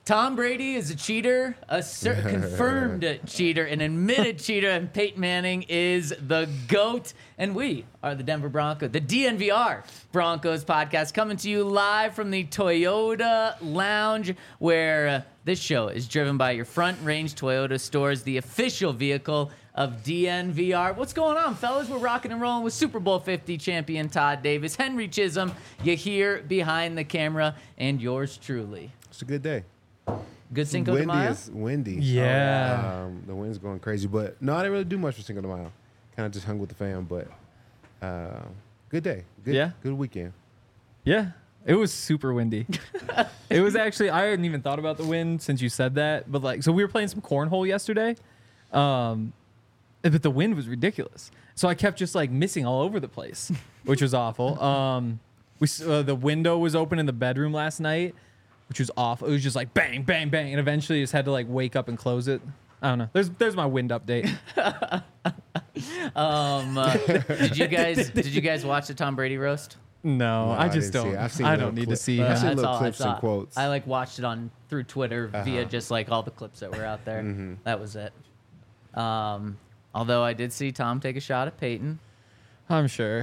Tom Brady is a cheater, a confirmed cheater, an admitted cheater, and Peyton Manning is the GOAT. And we are the Denver Broncos, the DNVR Broncos podcast, coming to you live from the Toyota Lounge, where this show is driven by your Front Range Toyota stores, the official vehicle of DNVR. What's going on, fellas? We're rocking and rolling with Super Bowl 50 champion Todd Davis, Henry Chisholm, you here behind the camera, and yours truly. It's a good day. Good Cinco de Mayo? It's windy. Yeah. The wind's going crazy. But no, I didn't really do much for Cinco de Mayo. Kind of just hung with the fam. But good day. Good weekend. Yeah. It was super windy. It was actually, I hadn't even thought about the wind since you said that. But so we were playing some cornhole yesterday. But the wind was ridiculous. So I kept just missing all over the place, which was awful. The window was open in the bedroom last night, which was awful. It was just bang, bang, bang. And eventually just had to wake up and close it. I don't know. There's my wind update. Did you guys watch the Tom Brady roast? No, I just don't. I don't need to see. I've seen That's little all clips and quotes. I watched it through Twitter via just all the clips that were out there. Mm-hmm. That was it. Although I did see Tom take a shot at Peyton. I'm sure.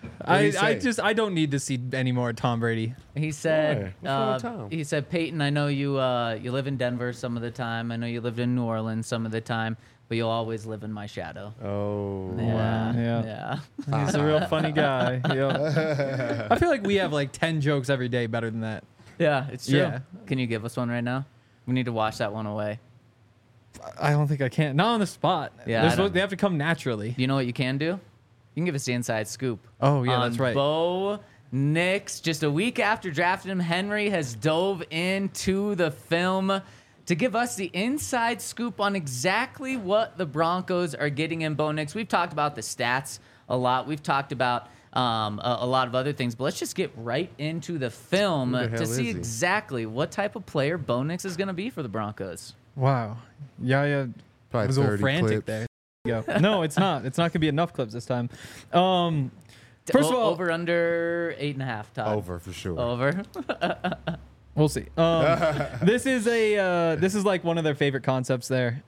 I don't need to see any more Tom Brady. He said, What's wrong with Tom? he said, Peyton, I know you live in Denver some of the time. I know you lived in New Orleans some of the time, but you'll always live in my shadow. Oh. Wow. Yeah. He's a real funny guy. Yep. I feel like we have 10 jokes every day better than that. Yeah, it's true. Yeah. Can you give us one right now? We need to wash that one away. I don't think I can. Not on the spot. Yeah, They have to come naturally. You know what you can do? You can give us the inside scoop. Oh, yeah, on that's right. Bo Nix, just a week after drafting him, Henry has dove into the film to give us the inside scoop on exactly what the Broncos are getting in Bo Nix. We've talked about the stats a lot. We've talked about a lot of other things, but let's just get right into the film to see exactly what type of player Bo Nix is going to be for the Broncos. Wow. Yeah. Probably was a little 30 frantic clips. there. Go. No, it's not. It's not going to be enough clips this time. First of all, over under 8.5. Todd. Over for sure. Over. we'll see. This is one of their favorite concepts there.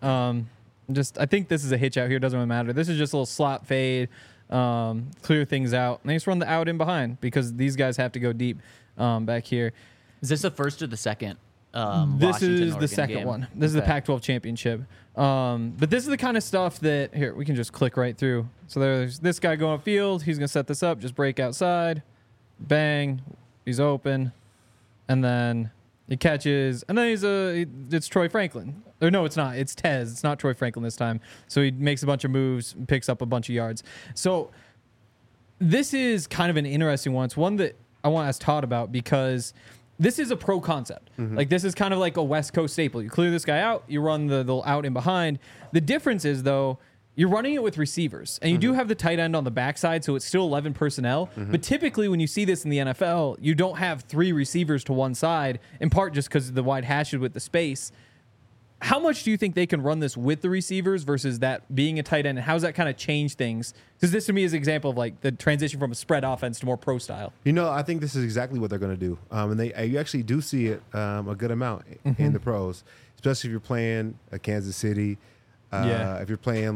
I think this is a hitch out here. Doesn't really matter. This is just a little slot fade, clear things out. And they just run the out in behind because these guys have to go deep back here. Is this the first or the second? This is the second game? one. This is the Pac-12 championship. But this is the kind of stuff that, here, we can just click right through. So there's this guy going upfield. He's going to set this up. Just break outside. Bang. He's open. And then he catches. And then it's Troy Franklin. Or no, it's not. It's Tez. It's not Troy Franklin this time. So he makes a bunch of moves, picks up a bunch of yards. So this is kind of an interesting one. It's one that I want to ask Todd about because this is a pro concept. Mm-hmm. This is kind of like a West Coast staple. You clear this guy out, you run the out in behind. The difference is, though, you're running it with receivers. And you do have the tight end on the backside, so it's still 11 personnel. But typically when you see this in the NFL, you don't have 3 receivers to one side, in part just because of the wide hashes with the space. How much do you think they can run this with the receivers versus that being a tight end? And how does that kind of change things? Because this to me is an example of the transition from a spread offense to more pro style. I think this is exactly what they're going to do. And you actually do see it a good amount in the pros, especially if you're playing Kansas City, if you're playing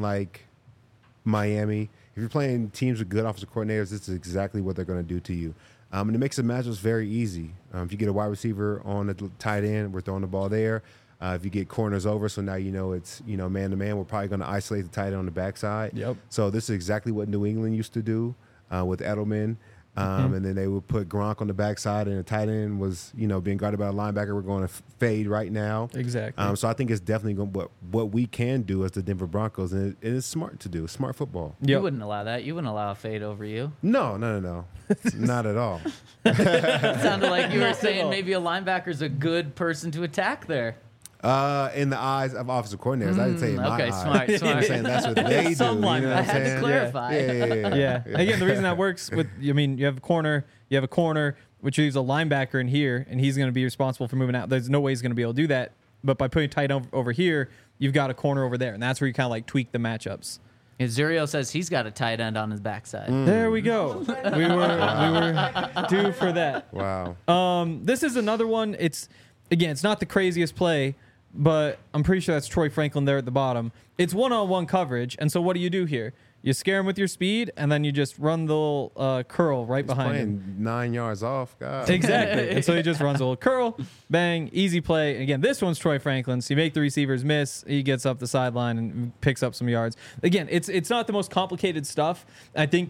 Miami, if you're playing teams with good offensive coordinators, this is exactly what they're going to do to you. And it makes the matchups very easy. If you get a wide receiver on the tight end, we're throwing the ball there. If you get corners over, so now it's man to man, we're probably going to isolate the tight end on the backside. Yep. So this is exactly what New England used to do with Edelman. And then they would put Gronk on the backside, and the tight end was being guarded by a linebacker. We're going to fade right now. Exactly. So I think it's definitely what we can do as the Denver Broncos, and it's smart to do. Smart football. Yep. You wouldn't allow that. You wouldn't allow a fade over you. No, not at all. It sounded like you were saying maybe a linebacker's a good person to attack there. In the eyes of offensive coordinators, I didn't say in my eyes. Smart. I'm saying that's what they do. Some You know what I I'm had to saying? clarify. Yeah. Again, the reason that works you have a corner, which leaves a linebacker in here, and he's going to be responsible for moving out. There's no way he's going to be able to do that. But by putting tight end over here, you've got a corner over there, and that's where you kind of tweak the matchups. Zurio says he's got a tight end on his backside. There we go. We were due for that. Wow. This is another one. It's again, it's not the craziest play, but I'm pretty sure that's Troy Franklin there at the bottom. It's one-on-one coverage, and so what do here? You scare him with your speed, and then you just run the little curl right behind him. 9 yards off, God. Exactly. And so he just runs a little curl, bang, easy play. And again, this one's Troy Franklin. So you make the receivers miss. He gets up the sideline and picks up some yards. Again, it's not the most complicated stuff. I think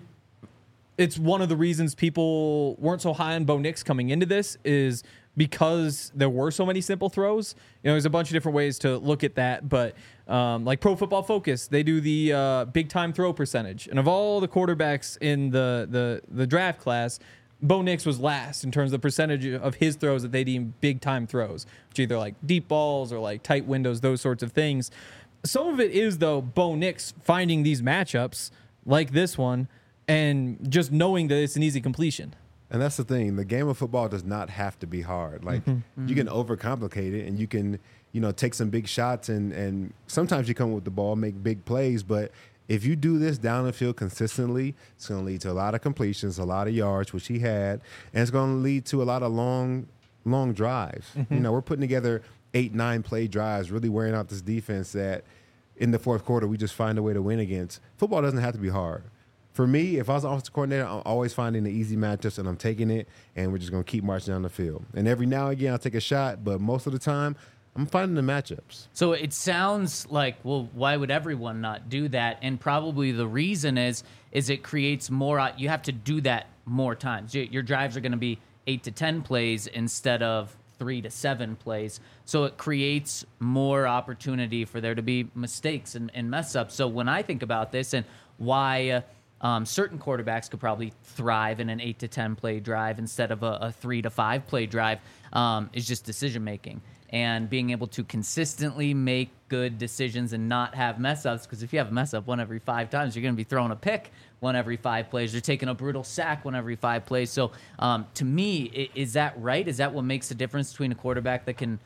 it's one of the reasons people weren't so high on Bo Nix coming into this is because there were so many simple throws. There's a bunch of different ways to look at that, but like Pro Football Focus, they do the big time throw percentage, and of all the quarterbacks in the draft class, Bo Nix was last in terms of the percentage of his throws that they deem big time throws, which either like deep balls or like tight windows, those sorts of things. Some of it is though Bo Nix finding these matchups like this one and just knowing that it's an easy completion. And that's the thing. The game of football does not have to be hard. Like you can overcomplicate it, and you can, take some big shots, and sometimes you come with the ball, make big plays. But if you do this down the field consistently, it's going to lead to a lot of completions, a lot of yards, which he had, and it's going to lead to a lot of long drives. We're putting together 8-9 play drives, really wearing out this defense that in the fourth quarter we just find a way to win against. Football doesn't have to be hard. For me, if I was an offensive coordinator, I'm always finding the easy matchups, and I'm taking it, and we're just going to keep marching down the field. And every now and again, I'll take a shot, but most of the time, I'm finding the matchups. So it sounds like, well, why would everyone not do that? And probably the reason is it creates more. You have to do that more times. Your drives are going to be 8 to 10 plays instead of 3 to 7 plays. So it creates more opportunity for there to be mistakes and mess ups. So when I think about this and why certain quarterbacks could probably thrive in an 8 to 10 play drive instead of a 3 to 5 play drive is just decision making and being able to consistently make good decisions and not have mess ups. Because if you have a mess up 1 every 5 times, you're going to be throwing a pick 1 every 5 plays. You're taking a brutal sack 1 every 5 plays. So to me, is that right? Is that what makes the difference between a quarterback that can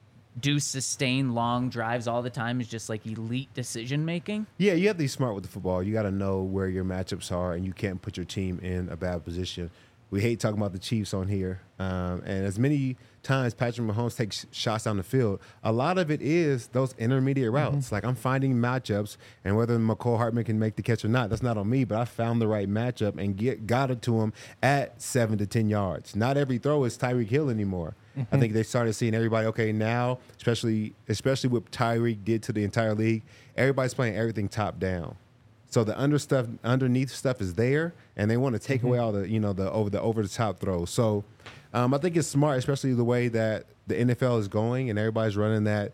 do sustain long drives all the time is just like elite decision making? Yeah, you have to be smart with the football. You got to know where your matchups are, and you can't put your team in a bad position. We hate talking about the Chiefs on here, and as many times Patrick Mahomes takes shots down the field, a lot of it is those intermediate routes. Like I'm finding matchups, and whether McCall Hartman can make the catch or not, that's not on me, but I found the right matchup and got it to him at 7 to 10 yards. Not every throw is Tyreek Hill anymore. I think they started seeing everybody, okay, now, especially what Tyreek did to the entire league, everybody's playing everything top down. So the underneath stuff is there, and they want to take away all the, the over the top throws. So I think it's smart, especially the way that the NFL is going, and everybody's running that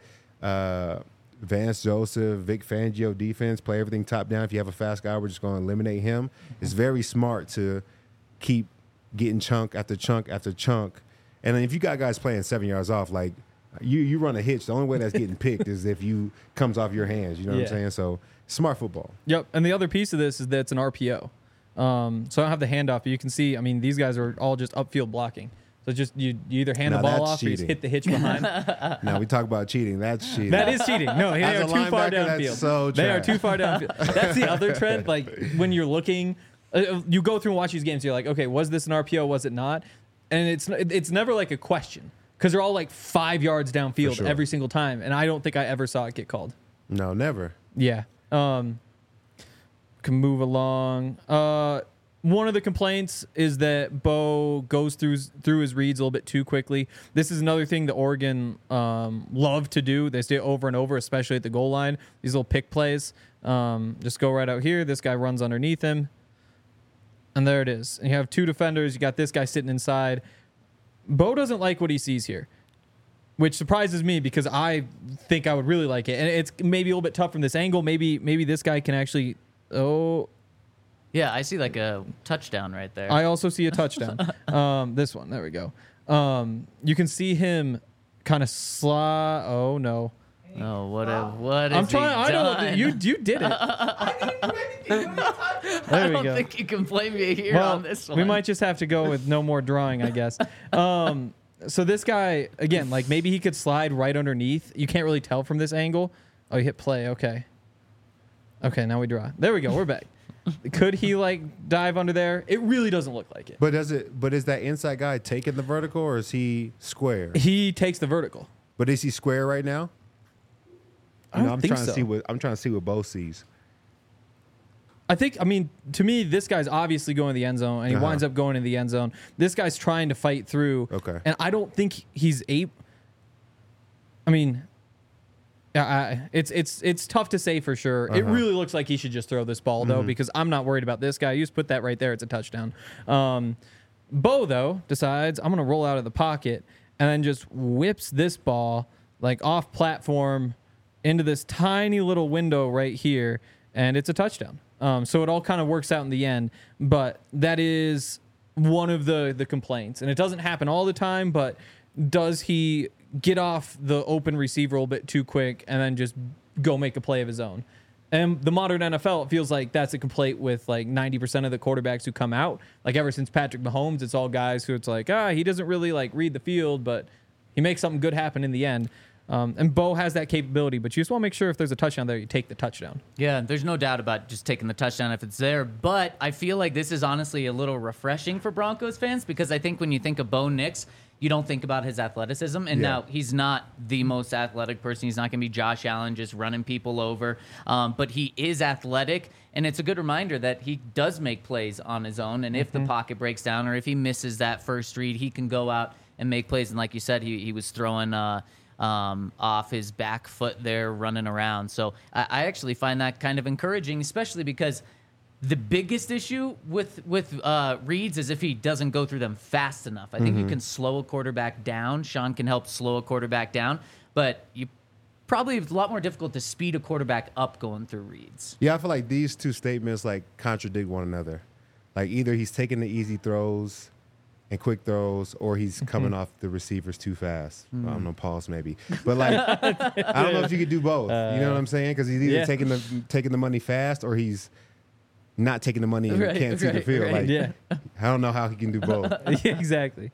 Vance Joseph, Vic Fangio defense, play everything top down. If you have a fast guy, we're just going to eliminate him. It's very smart to keep getting chunk after chunk after chunk. And then if you got guys playing 7 yards off, like you run a hitch, the only way that's getting picked is if you comes off your hands. You know what I'm saying? So smart football. Yep. And the other piece of this is that it's an RPO. So I don't have the handoff, but you can see, these guys are all just upfield blocking. So just you either hand the ball off or you just hit the hitch behind. Now we talk about cheating. That's cheating. That is cheating. No, they are too far downfield. They are too far downfield. That's the other trend. Like when you're looking, you go through and watch these games, you're like, okay, was this an RPO? Was it not? And it's never like a question because they're all like 5 yards downfield every single time. And I don't think I ever saw it get called. No, never. Yeah. Can move along. One of the complaints is that Bo goes through his reads a little bit too quickly. This is another thing that Oregon love to do. They stay over and over, especially at the goal line. These little pick plays. Just go right out here. This guy runs underneath him. And there it is. And you have 2 defenders. You got this guy sitting inside. Bo doesn't like what he sees here, which surprises me because I think I would really like it. And it's maybe a little bit tough from this angle. Maybe this guy can actually... Oh... Yeah, I see like a touchdown right there. I also see a touchdown. This one. There we go. You can see him kind of Oh, no. Oh, what is I'm trying. I don't. You did it. I didn't do anything. What are you talking about? There I we don't go. think you can blame me here on this one. We might just have to go with no more drawing, I guess. So this guy, again, like maybe he could slide right underneath. You can't really tell from this angle. Oh, he hit play. Okay. Okay, now we draw. There we go. We're back. Could he like dive under there? It really doesn't look like it. But is that inside guy taking the vertical or is he square? He takes the vertical. But is he square right now? I don't I'm think trying so. to see what Bo sees. I mean, to me, this guy's obviously going to the end zone, and he winds up going in the end zone. This guy's trying to fight through. Okay. And I don't think he's able. I mean, it's tough to say for sure. It really looks like he should just throw this ball, though, because I'm not worried about this guy. You just put that right there. It's a touchdown. Bo, though, decides, I'm going to roll out of the pocket, and then just whips this ball, like, off platform into this tiny little window right here, and it's a touchdown. So it all kind of works out in the end, but that is one of the complaints. And it doesn't happen all the time, but does he get off the open receiver a little bit too quick and then just go make a play of his own? And the modern NFL, it feels like that's a complaint with like 90% of the quarterbacks who come out. Like ever since Patrick Mahomes, it's all guys who it's like, he doesn't really like read the field, but he makes something good happen in the end. And Bo has that capability, but you just want to make sure if there's a touchdown there, you take the touchdown. Yeah, there's no doubt about just taking the touchdown if it's there. But I feel like this is honestly a little refreshing for Broncos fans because I think when you think of Bo Nix, you don't think about his athleticism. And now he's not the most athletic person. He's not going to be Josh Allen just running people over. But he is athletic. And it's a good reminder that he does make plays on his own. And if the pocket breaks down or if he misses that first read, he can go out and make plays. And like you said, he was throwing off his back foot there running around. So I actually find that kind of encouraging, especially because the biggest issue with reads is if he doesn't go through them fast enough. I think you can slow a quarterback down. Sean can help slow a quarterback down, but you probably it's a lot more difficult to speed a quarterback up going through reads. Yeah, I feel like these two statements like contradict one another. Like either he's taking the easy throws and quick throws, or he's coming off the receivers too fast. I don't know, pause maybe, but like I don't know if you could do both. You know what I'm saying? Because he's either taking the money fast, or he's not taking the money and can't see the field. Like I don't know how he can do both. Yeah, exactly.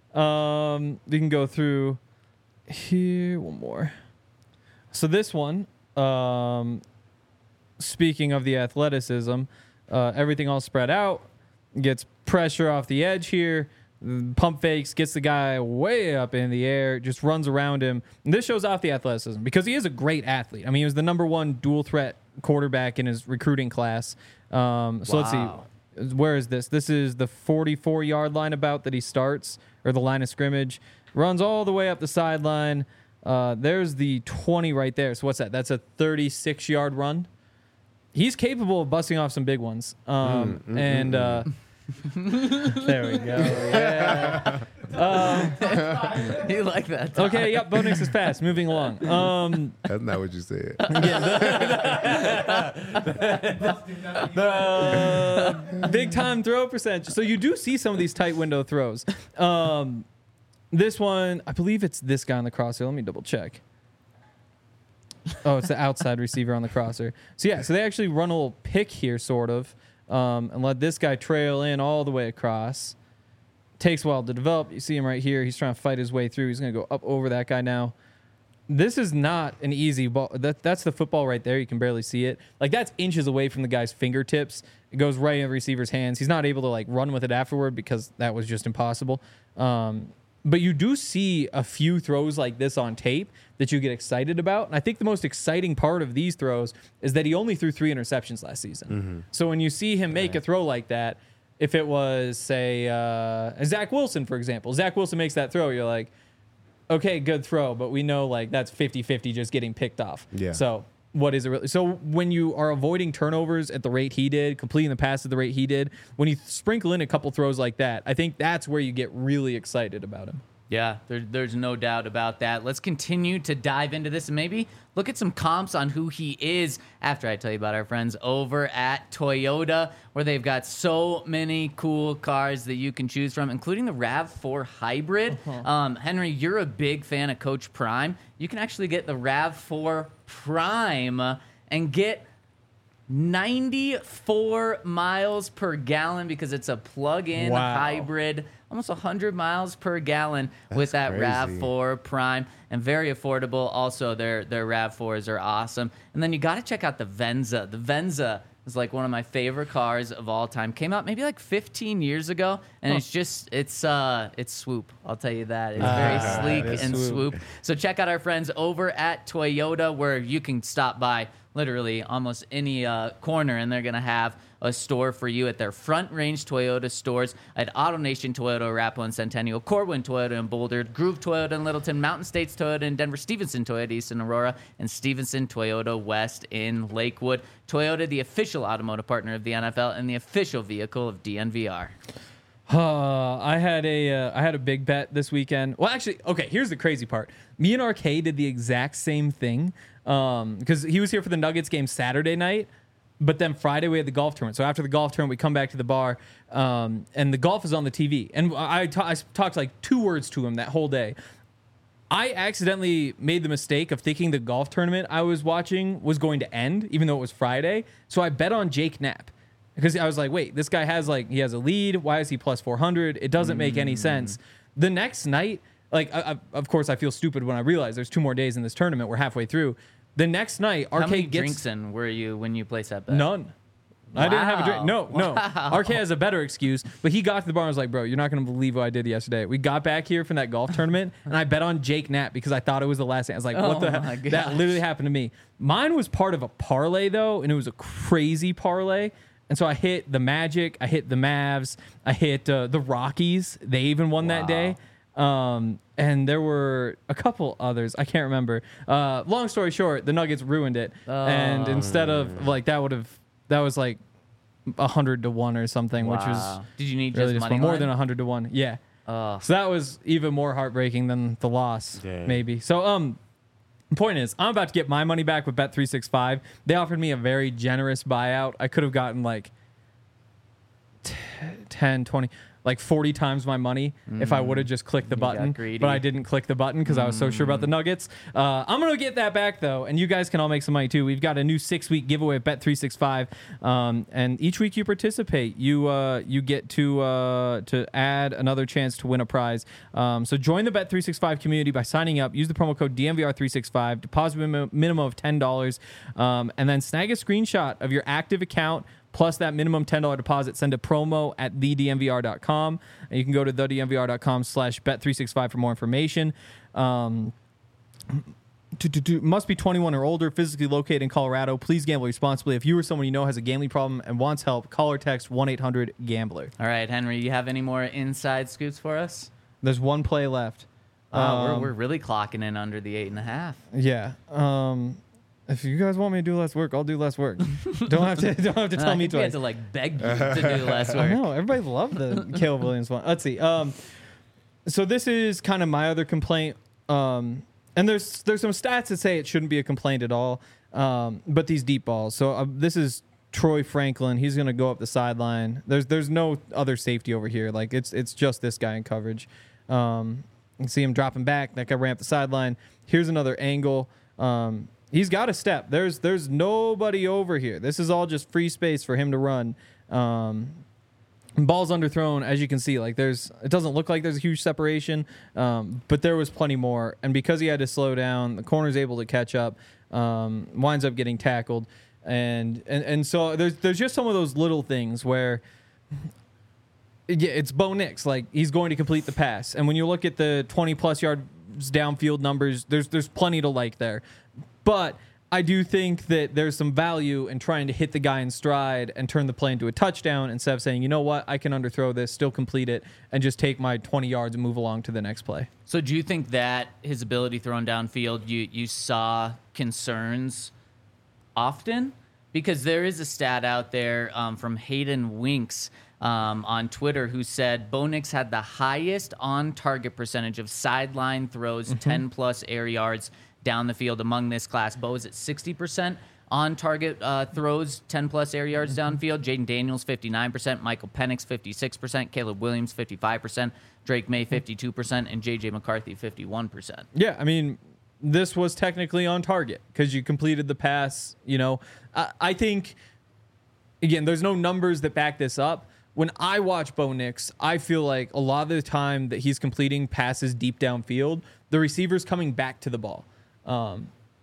We can go through here one more. So this one, speaking of the athleticism, everything all spread out, gets pressure off the edge here. Pump fakes, gets the guy way up in the air, just runs around him. And this shows off the athleticism because he is a great athlete. I mean, he was the number one dual threat quarterback in his recruiting class. Let's see. Where is this? This is the 44-yard line about that he starts, or the line of scrimmage. Runs all the way up the sideline. There's the 20 right there. So what's that? That's a 36-yard run. He's capable of busting off some big ones. There we go. Yeah. You like that, Tom. Okay, yep, Bo Nix is fast. Moving along. That's not what you said. Big time throw percentage. So you do see some of these tight window throws. This one, I believe it's this guy on the crosser. Let me double check. Oh, it's the outside receiver on the crosser. So yeah, so they actually run a little pick here, sort of. And let this guy trail in all the way across. Takes a while to develop. You see him right here. He's trying to fight his way through. He's going to go up over that guy now. This is not an easy ball. That's the football right there. You can barely see it. Like, that's inches away from the guy's fingertips. It goes right in the receiver's hands. He's not able to, like, run with it afterward because that was just impossible. But you do see a few throws like this on tape that you get excited about. And I think the most exciting part of these throws is that he only threw 3 interceptions last season. So when you see him make a throw like that, if it was, say, Zach Wilson, for example, Zach Wilson makes that throw, you're like, okay, good throw, but we know like that's 50-50 just getting picked off. Yeah. So what is it really? So when you are avoiding turnovers at the rate he did, completing the pass at the rate he did, when you sprinkle in a couple throws like that, I think that's where you get really excited about him. Yeah, there's no doubt about that. Let's continue to dive into this and maybe look at some comps on who he is after I tell you about our friends over at Toyota, where they've got so many cool cars that you can choose from, including the RAV4 Hybrid. Henry, you're a big fan of Coach Prime. You can actually get the RAV4 Prime and get 94 miles per gallon because it's a plug-in hybrid, almost 100 miles per gallon. That's with that crazy. RAV4 Prime, and very affordable. Also, their RAV4s are awesome. And then you got to check out the Venza. The Venza is like one of my favorite cars of all time. Came out maybe like 15 years ago, and it's swoop. I'll tell you that. It's very sleek and swoop. So check out our friends over at Toyota, where you can stop by literally almost any corner, and they're gonna have a store for you at their Front Range Toyota stores at AutoNation Toyota, Arapahoe and Centennial, Corwin Toyota in Boulder, Groove Toyota in Littleton, Mountain States Toyota in Denver, Stevenson Toyota East in Aurora, and Stevenson Toyota West in Lakewood. Toyota, the official automotive partner of the NFL and the official vehicle of DNVR. I had a big bet this weekend. Well, actually, okay, here's the crazy part. Me and RK did the exact same thing because he was here for the Nuggets game Saturday night. But then Friday we had the golf tournament. So after the golf tournament, we come back to the bar, and the golf is on the TV. And I talked like 2 words to him that whole day. I accidentally made the mistake of thinking the golf tournament I was watching was going to end, even though it was Friday. So I bet on Jake Knapp because I was like, wait, this guy has a lead. Why is he plus 400? It doesn't make any sense. The next night, of course, I feel stupid when I realize there's 2 more days in this tournament. We're halfway through. The next night, RK How many gets drinks in were you when you placed that bet? none. I didn't have a drink. No. Wow. RK has a better excuse, but he got to the bar and was like, bro, you're not going to believe what I did yesterday. We got back here from that golf tournament, and I bet on Jake Knapp because I thought it was the last thing. I was like, what the my heck? gosh. That literally happened to me. Mine was part of a parlay, though, and it was a crazy parlay. And so I hit the Magic, I hit the Mavs, I hit the Rockies. They even won that day. And there were a couple others. I can't remember. Long story short, the Nuggets ruined it. And instead of like that was like 100 to 1 or something, which was Did you need really just money more line? than 100 to 1. Yeah. Oh. So that was even more heartbreaking than the loss, Dang. maybe. So the point is, I'm about to get my money back with Bet365. They offered me a very generous buyout. I could have gotten like 10, 20, like 40 times my money if I would have just clicked the button. greedy. But I didn't click the button because I was so sure about the Nuggets. I'm going to get that back, though, and you guys can all make some money, too. We've got a new 6-week giveaway at Bet365, and each week you participate, you get to add another chance to win a prize. So join the Bet365 community by signing up. Use the promo code DNVR365, deposit minimum of $10, and then snag a screenshot of your active account plus that minimum $10 deposit. Send a promo at thednvr.com. And you can go to thednvr.com/bet365 for more information. Must be 21 or older, physically located in Colorado. Please gamble responsibly. If you or someone you know has a gambling problem and wants help, call or text 1-800-GAMBLER. All right, Henry, you have any more inside scoops for us? There's one play left. We're really clocking in under the 8.5. Yeah. If you guys want me to do less work, I'll do less work. Don't have to tell me We had twice. to like beg you to do less I work. know everybody loved the Caleb Williams one. Let's see. So this is kind of my other complaint. And there's some stats that say it shouldn't be a complaint at all. But these deep balls. So this is Troy Franklin. He's gonna go up the sideline. There's no other safety over here. Like it's just this guy in coverage. You can see him dropping back. That guy ran up the sideline. Here's another angle. He's got a step. There's nobody over here. This is all just free space for him to run. Ball's underthrown, as you can see. Like it doesn't look like there's a huge separation, but there was plenty more. And because he had to slow down, the corner's able to catch up. Winds up getting tackled, and so there's just some of those little things where. Yeah, it's Bo Nix. Like he's going to complete the pass, and when you look at the 20+ yards downfield numbers, there's plenty to like there. But I do think that there's some value in trying to hit the guy in stride and turn the play into a touchdown instead of saying, you know what, I can underthrow this, still complete it, and just take my 20 yards and move along to the next play. So do you think that his ability thrown downfield, you saw concerns often? Because there is a stat out there from Hayden Winks on Twitter who said Bo Nix had the highest on-target percentage of sideline throws, 10+ air yards down the field among this class. Bo is at 60% on-target throws, 10+ air yards downfield. Jaden Daniels, 59%. Michael Penix, 56%. Caleb Williams, 55%. Drake May, 52%. And J.J. McCarthy, 51%. Yeah, I mean, this was technically on target because you completed the pass. You know, I think, again, there's no numbers that back this up. When I watch Bo Nix, I feel like a lot of the time that he's completing passes deep downfield, the receiver's coming back to the ball.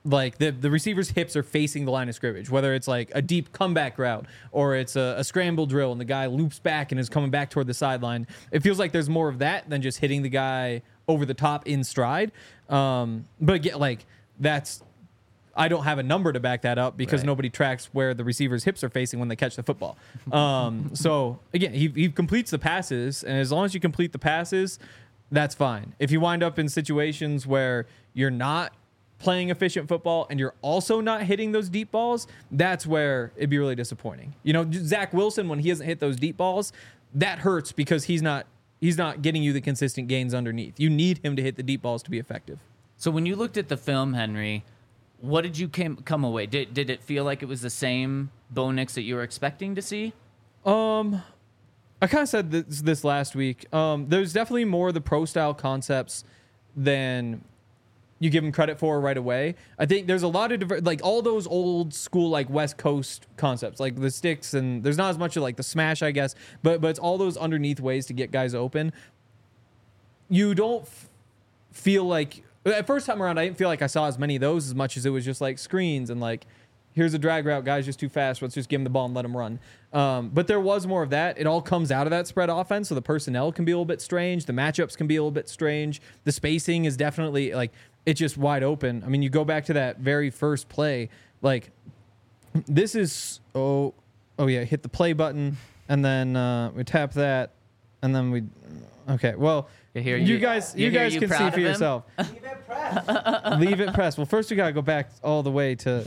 like the receiver's hips are facing the line of scrimmage, whether it's like a deep comeback route or it's a scramble drill and the guy loops back and is coming back toward the sideline. It feels like there's more of that than just hitting the guy over the top in stride. But again, like that's, I don't have a number to back that up because nobody tracks where the receiver's hips are facing when they catch the football. So again, he completes the passes, and as long as you complete the passes, that's fine. If you wind up in situations where you're not playing efficient football and you're also not hitting those deep balls, that's where it'd be really disappointing. You know, Zach Wilson, when he hasn't hit those deep balls, that hurts because he's not getting you the consistent gains underneath. You need him to hit the deep balls to be effective. So when you looked at the film, Henry, what did you come away? Did it feel like it was the same Bo Nix that you were expecting to see? I kind of said this last week. There's definitely more of the pro style concepts than you give him credit for right away. I think there's a lot of like all those old school like West Coast concepts, like the sticks, and there's not as much of like the smash, I guess, but it's all those underneath ways to get guys open. You don't feel like at first time around, I didn't feel like I saw as many of those as much as it was just like screens and like, here's a drag route, guy's just too fast. Let's just give him the ball and let him run. But there was more of that. It all comes out of that spread offense, so the personnel can be a little bit strange. The matchups can be a little bit strange. The spacing is definitely like, it's just wide open. I mean, you go back to that very first play, like this is, oh yeah, hit the play button, and then we tap that, and then okay, well, you guys can see for yourself. Leave it pressed. Leave it pressed. Well, first we got to go back all the way to,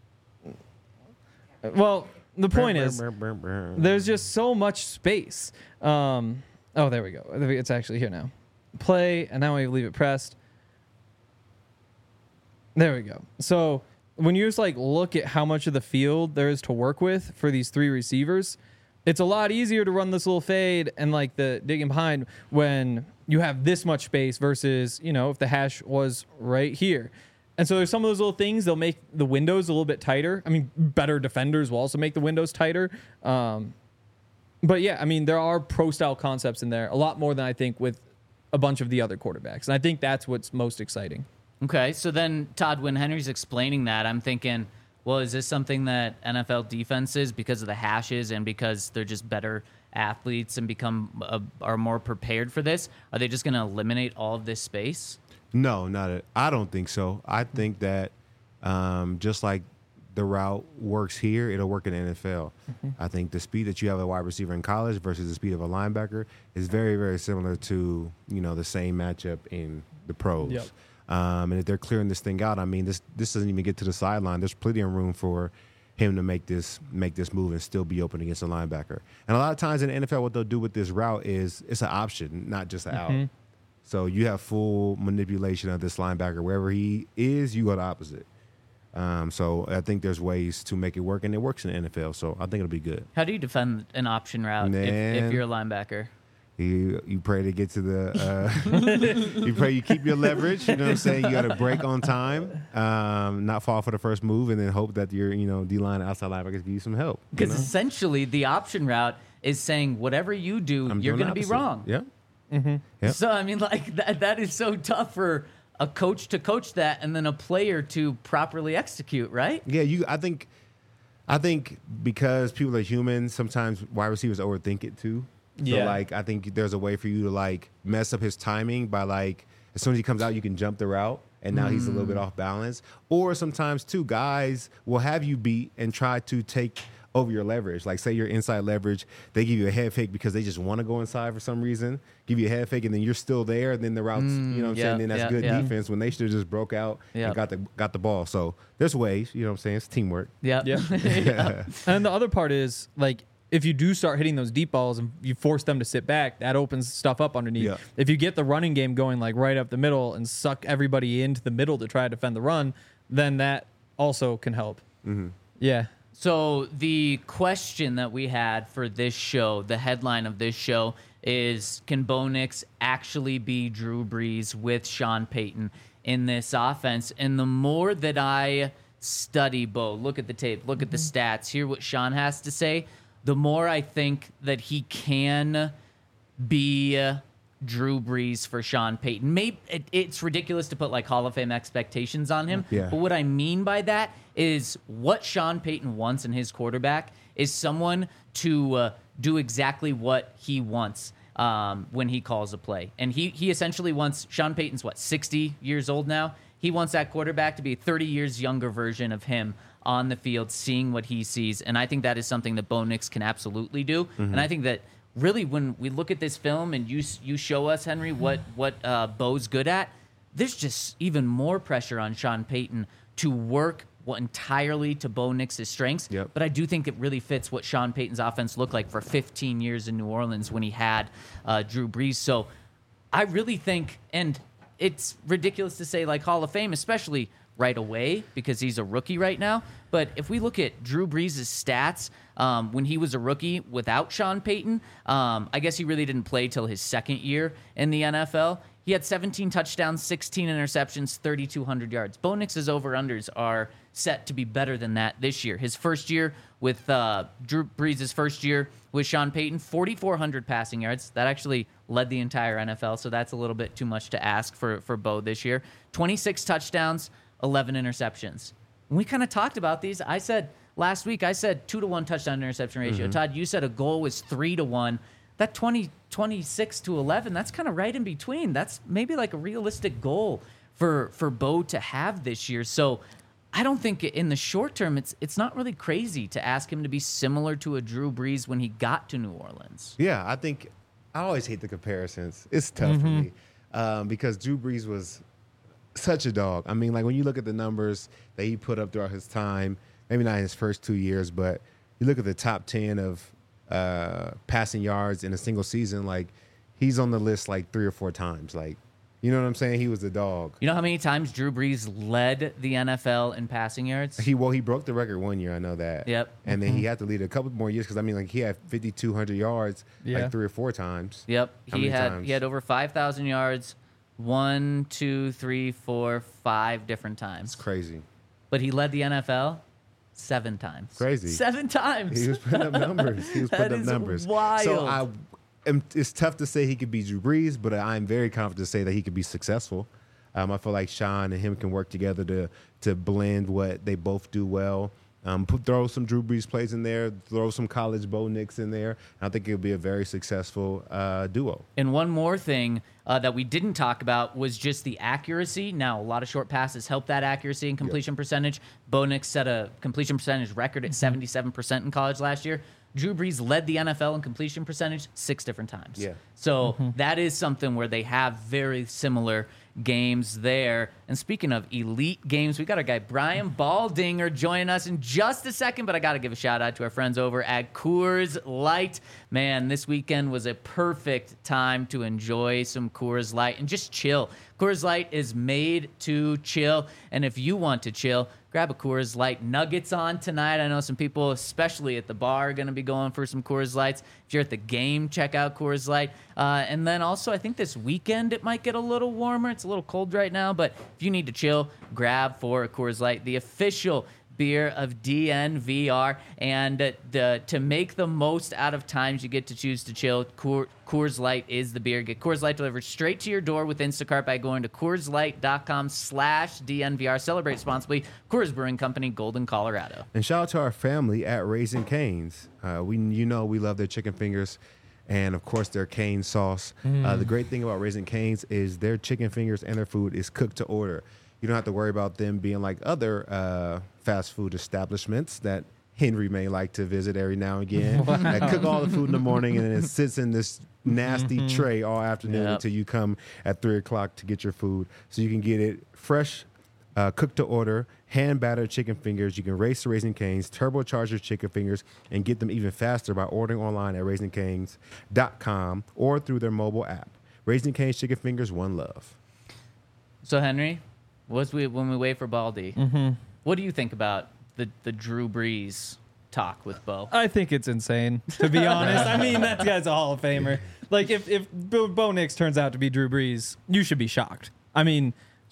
well, the point is, there's just so much space. Oh, there we go. It's actually here now. Play, and now we leave it pressed. There we go. So when you just like look at how much of the field there is to work with for these three receivers, it's a lot easier to run this little fade and like the digging behind when you have this much space versus, you know, if the hash was right here. And so there's some of those little things, they'll make the windows a little bit tighter. I mean, better defenders will also make the windows tighter. But yeah, I mean, there are pro style concepts in there, a lot more than I think with a bunch of the other quarterbacks. And I think that's what's most exciting. Okay, so then, Todd, when Henry's explaining that, I'm thinking, well, is this something that NFL defenses, because of the hashes and because they're just better athletes and are more prepared for this, are they just going to eliminate all of this space? No, I don't think so. I think that just like the route works here, it'll work in the NFL. Mm-hmm. I think the speed that you have a wide receiver in college versus the speed of a linebacker is very, very similar to, you know, the same matchup in the pros. Yep. And if they're clearing this thing out, I mean, this doesn't even get to the sideline. There's plenty of room for him to make this move and still be open against a linebacker. And a lot of times in the NFL, what they'll do with this route is it's an option, not just an out. So you have full manipulation of this linebacker. Wherever he is, you go the opposite. So I think there's ways to make it work, and it works in the NFL. So I think it'll be good. How do you defend an option route if you're a linebacker? You pray to get to the you pray you keep your leverage, you know what I'm saying? You got to break on time, not fall for the first move, and then hope that your D-line and outside linebackers give you some help. Because essentially the option route is saying whatever you do, you're going to be wrong. Yeah. Mm-hmm. Yep. So I mean, like that is so tough for a coach to coach that and then a player to properly execute, right? Yeah, I think because people are human, sometimes wide receivers overthink it too. So, like, I think there's a way for you to, like, mess up his timing by, like, as soon as he comes out, you can jump the route, and now he's a little bit off balance. Or sometimes, too, guys will have you beat and try to take over your leverage. Like, say you're inside leverage, they give you a head fake because they just want to go inside for some reason, give you a head fake, and then you're still there, and then the route's, you know what I'm saying? Then that's good defense when they should have just broke out and got the ball. So there's ways, you know what I'm saying? It's teamwork. Yeah. And the other part is, like, if you do start hitting those deep balls and you force them to sit back, that opens stuff up underneath. Yeah. If you get the running game going like right up the middle and suck everybody into the middle to try to defend the run, then that also can help. Mm-hmm. Yeah. So the question that we had for this show, the headline of this show is, can Bo Nix actually be Drew Brees with Sean Payton in this offense? And the more that I study Bo, look at the tape, look at the stats, hear what Sean has to say, the more I think that he can be Drew Brees for Sean Payton. Maybe it's ridiculous to put like Hall of Fame expectations on him. Yeah. But what I mean by that is what Sean Payton wants in his quarterback is someone to do exactly what he wants when he calls a play. And he essentially wants, Sean Payton's 60 years old now? He wants that quarterback to be a 30 years younger version of him on the field, seeing what he sees. And I think that is something that Bo Nix can absolutely do. And I think that really when we look at this film and you show us, Henry, what Bo's good at, there's just even more pressure on Sean Payton to work entirely to Bo Nix's strengths. Yep. But I do think it really fits what Sean Payton's offense looked like for 15 years in New Orleans when he had Drew Brees. So I really think, and it's ridiculous to say like Hall of Fame, especially right away because he's a rookie right now. But if we look at Drew Brees' stats when he was a rookie without Sean Payton, I guess he really didn't play till his second year in the NFL. He had 17 touchdowns, 16 interceptions, 3,200 yards. Bo Nix's over-unders are set to be better than that this year. His first year with Drew Brees' first year with Sean Payton, 4,400 passing yards. That actually led the entire NFL, so that's a little bit too much to ask for Bo this year. 26 touchdowns, 11 interceptions. When we kind of talked about these, I said last week, 2-to-1 touchdown interception ratio. Todd, you said a goal was 3-to-1. That 26 to 11, that's kind of right in between. That's maybe like a realistic goal for Bo to have this year. So I don't think in the short term, it's not really crazy to ask him to be similar to a Drew Brees when he got to New Orleans. Yeah, I think I always hate the comparisons. It's tough for me because Drew Brees was such a dog. I mean, like when you look at the numbers that he put up throughout his time, maybe not in his first 2 years, but you look at the top 10 of passing yards in a single season, like he's on the list like 3 or 4 times. Like, you know what I'm saying? He was a dog. You know how many times Drew Brees led the NFL in passing yards? He broke the record one year. I know that. Yep. And then he had to lead a couple more years because I mean, like he had 5,200 yards like 3 or 4 times. Yep. How many times? He had over 5,000 yards 1, 2, 3, 4, 5 different times. It's crazy. But he led the NFL 7 times. Crazy. 7 times. He was putting up numbers. That is wild. So it's tough to say he could be Drew Brees, but I'm very confident to say that he could be successful. I feel like Sean and him can work together to blend what they both do well. Throw some Drew Brees plays in there, throw some college Bo Nix in there. I think it'll be a very successful duo. And one more thing that we didn't talk about was just the accuracy. Now, a lot of short passes help that accuracy and completion percentage. Bo Nix set a completion percentage record at 77% in college last year. Drew Brees led the NFL in completion percentage 6 different times. Yeah. So that is something where they have very similar games there. And speaking of elite games, we got our guy Brian Baldinger joining us in just a second, but I got to give a shout out to our friends over at Coors Light. Man, this weekend was a perfect time to enjoy some Coors Light and just chill. Coors Light is made to chill, and if you want to chill, grab a Coors Light. Nuggets on tonight. I know some people, especially at the bar, are going to be going for some Coors Lights. If you're at the game, check out Coors Light. And then also, I think this weekend it might get a little warmer. It's a little cold right now, but if you need to chill, grab for a Coors Light, the official beer of DNVR. And to make the most out of times you get to choose to chill, Coors Light is the beer. Get Coors Light delivered straight to your door with Instacart by going to CoorsLight.com/DNVR. Celebrate responsibly. Coors Brewing Company, Golden, Colorado. And shout out to our family at Raising Cane's. We love their chicken fingers and, of course, their cane sauce. The great thing about Raising Cane's is their chicken fingers and their food is cooked to order. You don't have to worry about them being like other fast food establishments that Henry may like to visit every now and again. That cook all the food in the morning and then it sits in this nasty tray all afternoon until you come at 3 o'clock to get your food. So you can get it fresh, cooked to order, hand battered chicken fingers. You can race the Raising Cane's, turbocharge your chicken fingers, and get them even faster by ordering online at raisingcanes.com or through their mobile app. Raising Cane's chicken fingers, one love. So Henry, when we wait for Baldy, what do you think about the Drew Brees talk with Bo? I think it's insane, to be honest. I mean, that guy's a Hall of Famer. Like, if Bo Nix turns out to be Drew Brees, you should be shocked. I mean,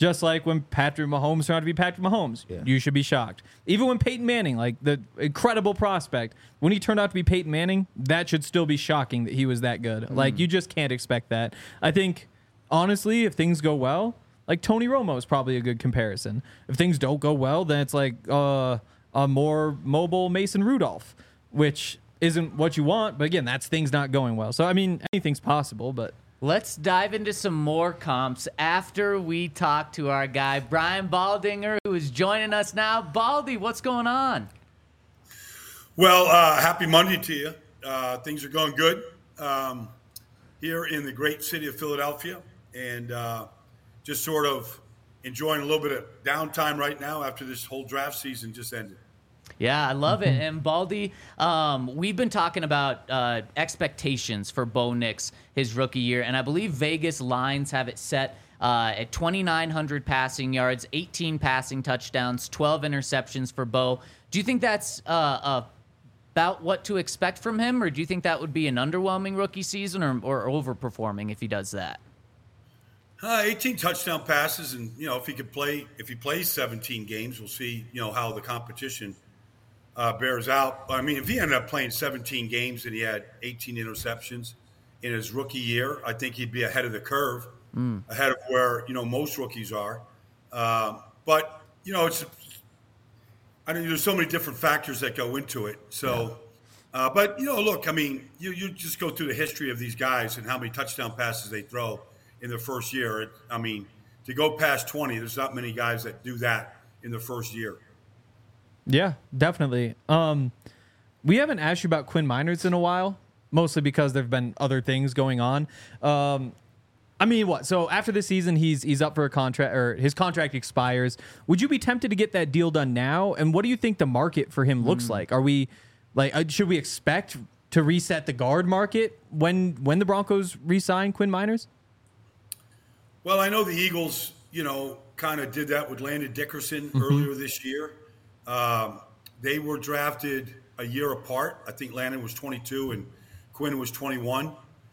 Just like when Patrick Mahomes turned out to be Patrick Mahomes, you should be shocked. Even when Peyton Manning, like the incredible prospect, when he turned out to be Peyton Manning, that should still be shocking that he was that good. Like, you just can't expect that. I think, honestly, if things go well, like Tony Romo is probably a good comparison. If things don't go well, then it's like a more mobile Mason Rudolph, which isn't what you want. But again, that's things not going well. So, I mean, anything's possible, but... Let's dive into some more comps after we talk to our guy, Brian Baldinger, who is joining us now. Baldy, what's going on? Well, happy Monday to you. Things are going good here in the great city of Philadelphia, and just sort of enjoying a little bit of downtime right now after this whole draft season just ended. Yeah, I love it. And Baldy, we've been talking about expectations for Bo Nix his rookie year, and I believe Vegas lines have it set at 2,900 passing yards, 18 passing touchdowns, 12 interceptions for Bo. Do you think that's about what to expect from him, or do you think that would be an underwhelming rookie season or overperforming if he does that? 18 touchdown passes, and if he plays 17 games, we'll see how the competition bears out. I mean, if he ended up playing 17 games and he had 18 interceptions in his rookie year, I think he'd be ahead of the curve, ahead of where most rookies are. But there's so many different factors that go into it. So, but look, I mean, you just go through the history of these guys and how many touchdown passes they throw in their first year. I mean, to go past 20, there's not many guys that do that in their first year. Yeah, definitely. We haven't asked you about Quinn Meinerz in a while, mostly because there've been other things going on. I mean, what? So after this season, he's up for a contract, or his contract expires. Would you be tempted to get that deal done now? And what do you think the market for him looks like? Are we should we expect to reset the guard market when the Broncos re-sign Quinn Meinerz? Well, I know the Eagles, kind of did that with Landon Dickerson earlier this year. They were drafted a year apart. I think Landon was 22 and Quinn was 21.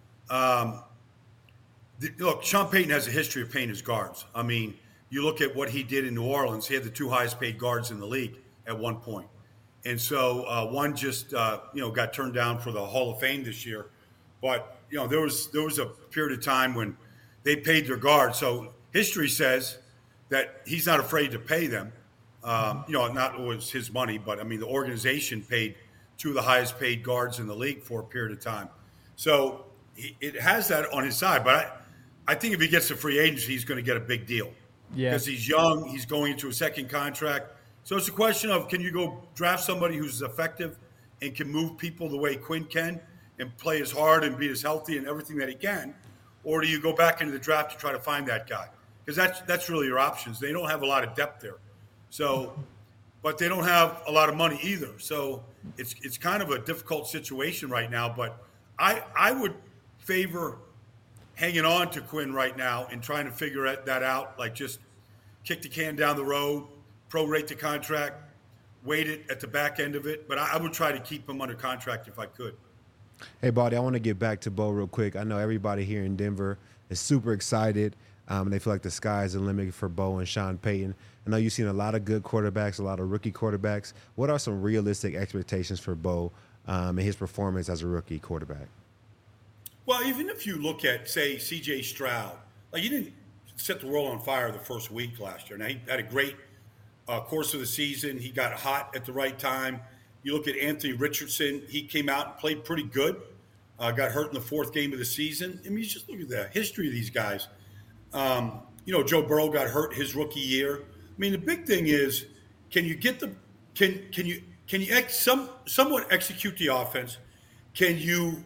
Look, Sean Payton has a history of paying his guards. I mean, you look at what he did in New Orleans. He had the 2 highest paid guards in the league at one point. And so one just, got turned down for the Hall of Fame this year. But, there was a period of time when they paid their guards. So history says that he's not afraid to pay them. Not always his money, but I mean, the organization paid 2 of the highest paid guards in the league for a period of time. So it has that on his side. But I think if he gets a free agency, he's going to get a big deal. Yeah. Because he's young, he's going into a second contract. So it's a question of, can you go draft somebody who's effective and can move people the way Quinn can and play as hard and be as healthy and everything that he can? Or do you go back into the draft to try to find that guy? Because that's really your options. They don't have a lot of depth there. So, but they don't have a lot of money either. So it's kind of a difficult situation right now. But I would favor hanging on to Quinn right now and trying to figure that out. Like, just kick the can down the road, prorate the contract, wait it at the back end of it. But I would try to keep him under contract if I could. Hey, Baldy, I want to get back to Bo real quick. I know everybody here in Denver is super excited. They feel like the sky is the limit for Bo and Sean Payton. I know you've seen a lot of good quarterbacks, a lot of rookie quarterbacks. What are some realistic expectations for Bo and his performance as a rookie quarterback? Well, even if you look at, say, C.J. Stroud, like, he didn't set the world on fire the first week last year. Now, he had a great course of the season. He got hot at the right time. You look at Anthony Richardson, he came out and played pretty good, got hurt in the 4th game of the season. I mean, you just look at the history of these guys. Joe Burrow got hurt his rookie year. I mean, the big thing is, can you get somewhat execute the offense? Can you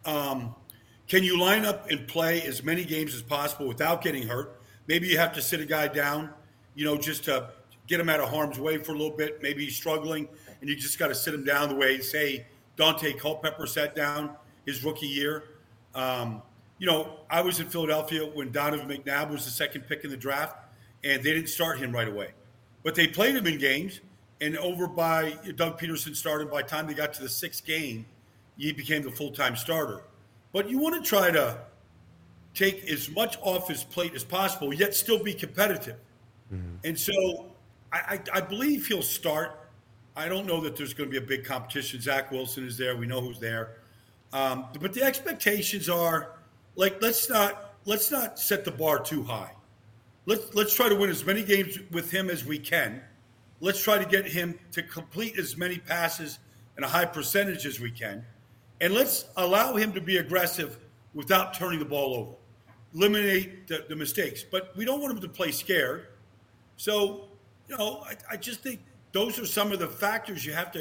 line up and play as many games as possible without getting hurt? Maybe you have to sit a guy down, just to get him out of harm's way for a little bit. Maybe he's struggling, and you just got to sit him down the way, say, Dante Culpepper sat down his rookie year. I was in Philadelphia when Donovan McNabb was the 2nd pick in the draft, and they didn't start him right away. But they played him in games, and Doug Peterson started. By the time they got to the 6th game, he became the full-time starter. But you want to try to take as much off his plate as possible, yet still be competitive. And so I believe he'll start. I don't know that there's going to be a big competition. Zach Wilson is there. We know who's there. But the expectations are like, let's not set the bar too high. Let's try to win as many games with him as we can. Let's try to get him to complete as many passes and a high percentage as we can. And let's allow him to be aggressive without turning the ball over. Eliminate the mistakes. But we don't want him to play scared. So, I just think those are some of the factors you have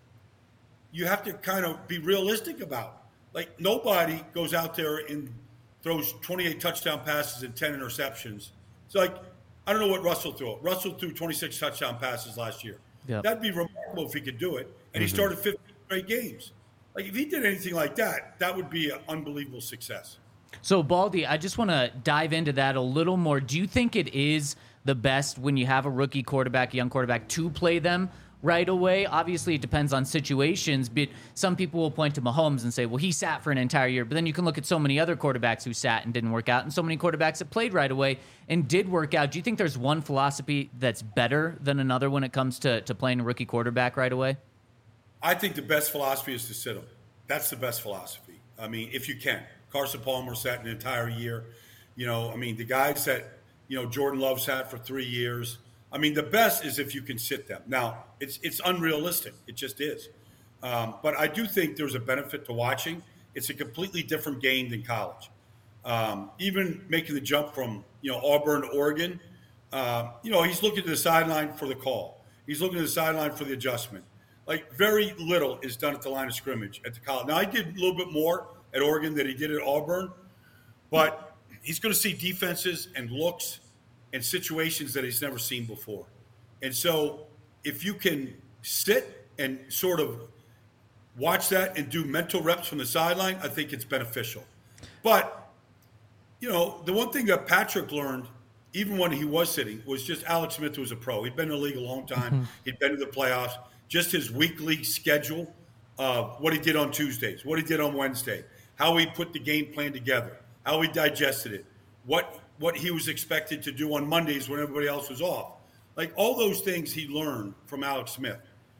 to kind of be realistic about. Like, nobody goes out there and throws 28 touchdown passes and 10 interceptions. It's like, I don't know what Russell threw. Russell threw 26 touchdown passes last year. Yep. That'd be remarkable if he could do it. And he started 15 straight games. Like, if he did anything like that, that would be an unbelievable success. So, Baldy, I just want to dive into that a little more. Do you think it is the best when you have a rookie quarterback, a young quarterback, to play them right away? Obviously, it depends on situations, but some people will point to Mahomes and say, well, he sat for an entire year. But then you can look at so many other quarterbacks who sat and didn't work out, and so many quarterbacks that played right away and did work out. Do you think there's one philosophy that's better than another when it comes to playing a rookie quarterback right away? I think the best philosophy is to sit him. That's the best philosophy. I mean, if you can. Carson Palmer sat an entire year. The guys that, Jordan Love sat for 3 years. I mean, the best is if you can sit them. Now, it's unrealistic. It just is. But I do think there's a benefit to watching. It's a completely different game than college. Even making the jump from, Auburn to Oregon, he's looking to the sideline for the call. He's looking to the sideline for the adjustment. Like, very little is done at the line of scrimmage at the college. Now, I did a little bit more at Oregon than he did at Auburn, but he's going to see defenses and looks and situations that he's never seen before. And so if you can sit and sort of watch that and do mental reps from the sideline, I think it's beneficial. But, the one thing that Patrick learned, even when he was sitting, was just Alex Smith was a pro. He'd been in the league a long time. He'd been to the playoffs. Just his weekly schedule of what he did on Tuesdays, what he did on Wednesday, how he put the game plan together, how he digested it, what he was expected to do on Mondays when everybody else was off. Like, all those things he learned from Alex Smith.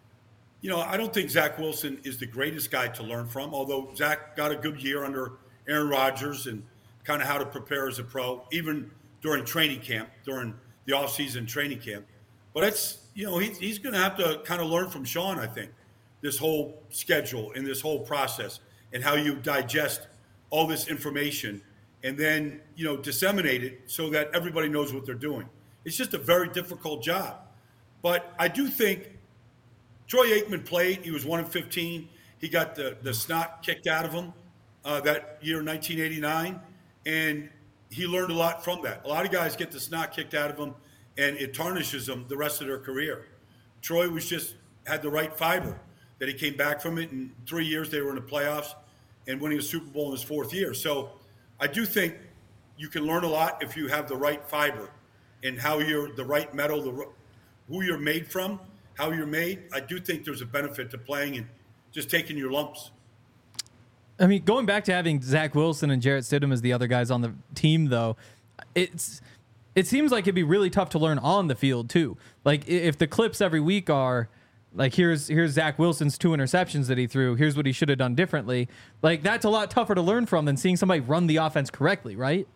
I don't think Zach Wilson is the greatest guy to learn from, although Zach got a good year under Aaron Rodgers and kind of how to prepare as a pro, even during training camp, during the offseason training camp. But it's, he's going to have to kind of learn from Sean, I think, this whole schedule and this whole process and how you digest all this information and then, disseminate it so that everybody knows what they're doing. It's just a very difficult job. But I do think Troy Aikman played. He was 1-15. He got the snot kicked out of him that year, 1989, and he learned a lot from that. A lot of guys get the snot kicked out of them, and it tarnishes them the rest of their career. Troy had the right fiber that he came back from it. In 3 years, they were in the playoffs and winning a Super Bowl in his 4th year. So I do think you can learn a lot if you have the right fiber and how you're the right metal, who you're made from, how you're made. I do think there's a benefit to playing and just taking your lumps. I mean, going back to having Zach Wilson and Jarrett Stidham as the other guys on the team, though, it seems like it'd be really tough to learn on the field, too. Like, if the clips every week are, like, here's Zach Wilson's 2 interceptions that he threw, here's what he should have done differently, like, that's a lot tougher to learn from than seeing somebody run the offense correctly, right?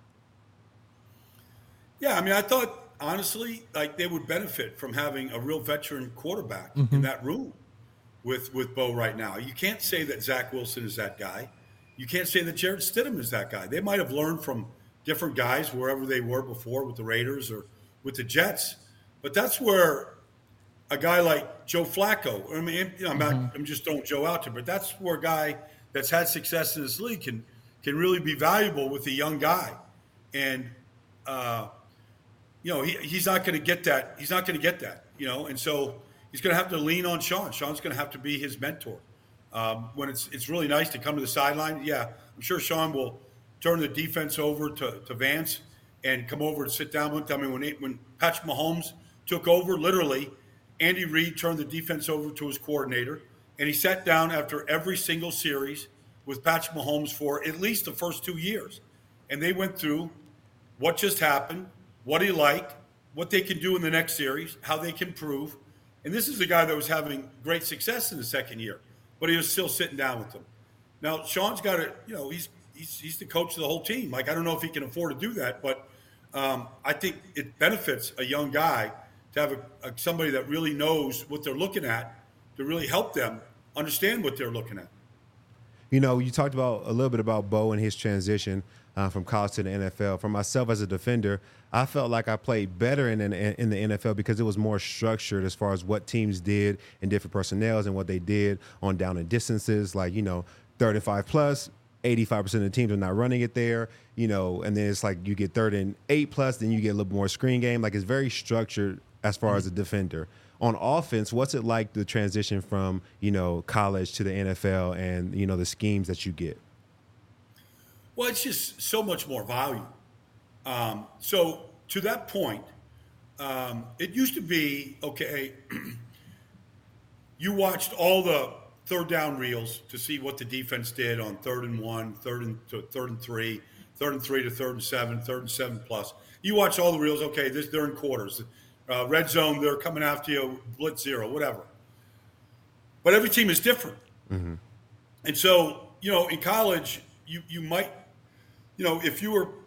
Yeah, I mean, I thought, honestly, like, they would benefit from having a real veteran quarterback in that room with Bo right now. You can't say that Zach Wilson is that guy. You can't say that Jarrett Stidham is that guy. They might have learned from different guys wherever they were before with the Raiders or with the Jets. But that's where a guy like Joe Flacco, I mean, I'm just throwing Joe out there, but that's where a guy that's had success in this league can really be valuable with a young guy. And, he's not going to get that. He's not going to get that, and so he's going to have to lean on Sean. Sean's going to have to be his mentor. When it's really nice to come to the sideline. Yeah, I'm sure Sean will turn the defense over to Vance and come over and sit down with them. I mean, when Patrick Mahomes took over, literally, Andy Reid turned the defense over to his coordinator, and he sat down after every single series with Patrick Mahomes for at least the first 2 years. And they went through what just happened, what he liked, what they can do in the next series, how they can prove. And this is a guy that was having great success in the second year, but he was still sitting down with them. Now, Sean's got to, he's the coach of the whole team. Like, I don't know if he can afford to do that, but I think it benefits a young guy to have somebody that really knows what they're looking at to really help them understand what they're looking at. You talked about a little bit about Bo and his transition from college to the NFL. For myself as a defender, I felt like I played better in the NFL because it was more structured as far as what teams did and different personnels and what they did on down and distances, like, 35 plus, 85% of the teams are not running it there, and then it's like you get 3rd and 8 plus, then you get a little more screen game. Like, it's very structured as far as a defender. On offense, what's it like the transition from, college to the NFL and, the schemes that you get? Well, it's just so much more value. So to that point, it used to be, okay, you watched all the third down reels to see what the defense did on 3rd and 1, 3rd and 3, 3rd and 3 to 3rd and 7, 3rd and 7 plus. You watch all the reels, okay, they're in quarters. Red zone, they're coming after you, blitz 0, whatever. But every team is different. Mm-hmm. And so, in college, you might, if you were,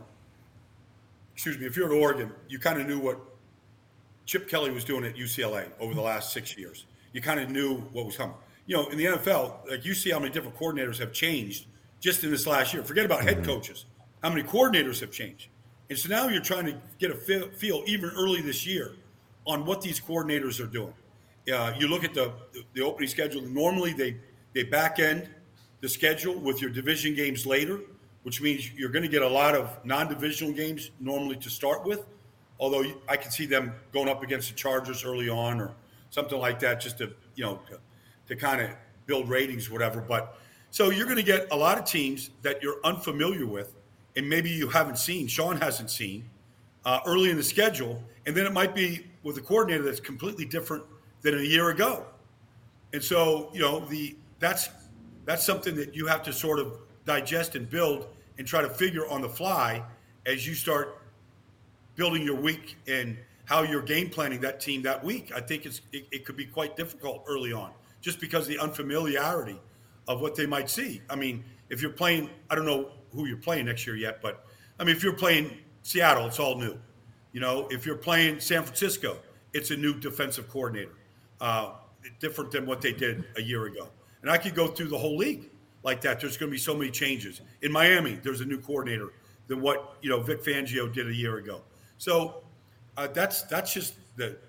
if you were at Oregon, you kind of knew what Chip Kelly was doing at UCLA over the last 6 years. You kind of knew what was coming. In the NFL, like, you see how many different coordinators have changed just in this last year. Forget about head coaches. How many coordinators have changed? And so now you're trying to get a feel even early this year on what these coordinators are doing. You look at the opening schedule. Normally they back end the schedule with your division games later, which means you're going to get a lot of non-divisional games normally to start with, although I can see them going up against the Chargers early on or something like that just to kind of build ratings or whatever. But so you're going to get a lot of teams that you're unfamiliar with and maybe you haven't seen, Sean hasn't seen, early in the schedule. And then it might be with a coordinator that's completely different than a year ago. And so, that's something that you have to sort of digest and build and try to figure on the fly as you start building your week and how you're game planning that team that week. I think it could be quite difficult early on just because of the unfamiliarity of what they might see. I mean, if you're playing, I don't know who you're playing next year yet, but I mean, if you're playing Seattle, it's all new. If you're playing San Francisco, it's a new defensive coordinator, different than what they did a year ago. And I could go through the whole league like that. There's going to be so many changes. In Miami, there's a new coordinator than what Vic Fangio did a year ago. So that's just the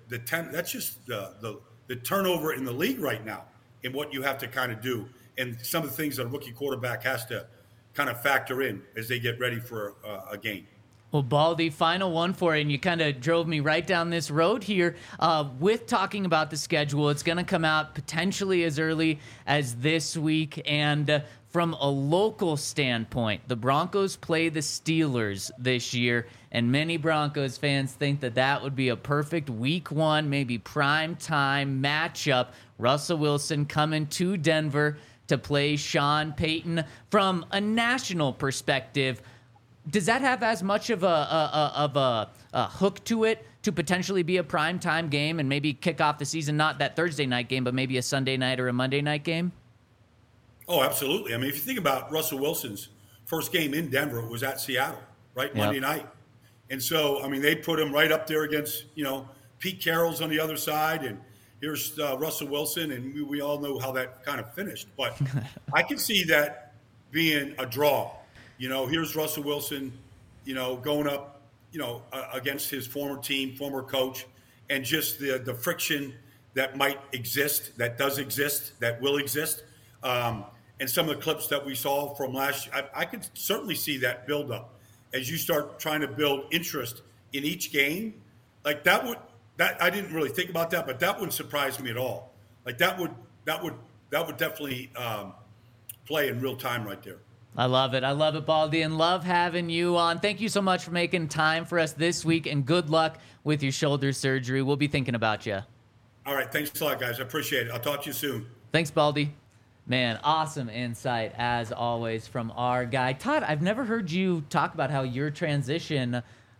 turnover in the league right now and what you have to kind of do, and some of the things that a rookie quarterback has to kind of factor in as they get ready for a game. Well, Baldy, final one for you, and you kind of drove me right down this road here with talking about the schedule. It's going to come out potentially as early as this week, and from a local standpoint, the Broncos play the Steelers this year, and many Broncos fans think that would be a perfect week 1, maybe prime time matchup. Russell Wilson coming to Denver to play Sean Payton. From a national perspective, does that have as much of a hook to it to potentially be a primetime game and maybe kick off the season, not that Thursday night game, but maybe a Sunday night or a Monday night game? Oh, absolutely. I mean, if you think about Russell Wilson's first game in Denver, it was at Seattle, right? Monday night. And so, I mean, they put him right up there against, Pete Carroll's on the other side, and here's Russell Wilson, and we all know how that kind of finished. But I can see that being a draw. Here's Russell Wilson, going up, against his former team, former coach, and just the friction that might exist, that does exist, that will exist. And some of the clips that we saw from last year, I could certainly see that build up as you start trying to build interest in each game. Like that I didn't really think about that, but that wouldn't surprise me at all. Like that would definitely play in real time right there. I love it, Baldy, and love having you on. Thank you so much for making time for us this week, and good luck with your shoulder surgery. We'll be thinking about you. All right, thanks a lot, guys. I appreciate it. I'll talk to you soon. Thanks, Baldy. Man, awesome insight, as always, from our guy. Todd, I've never heard you talk about how your transition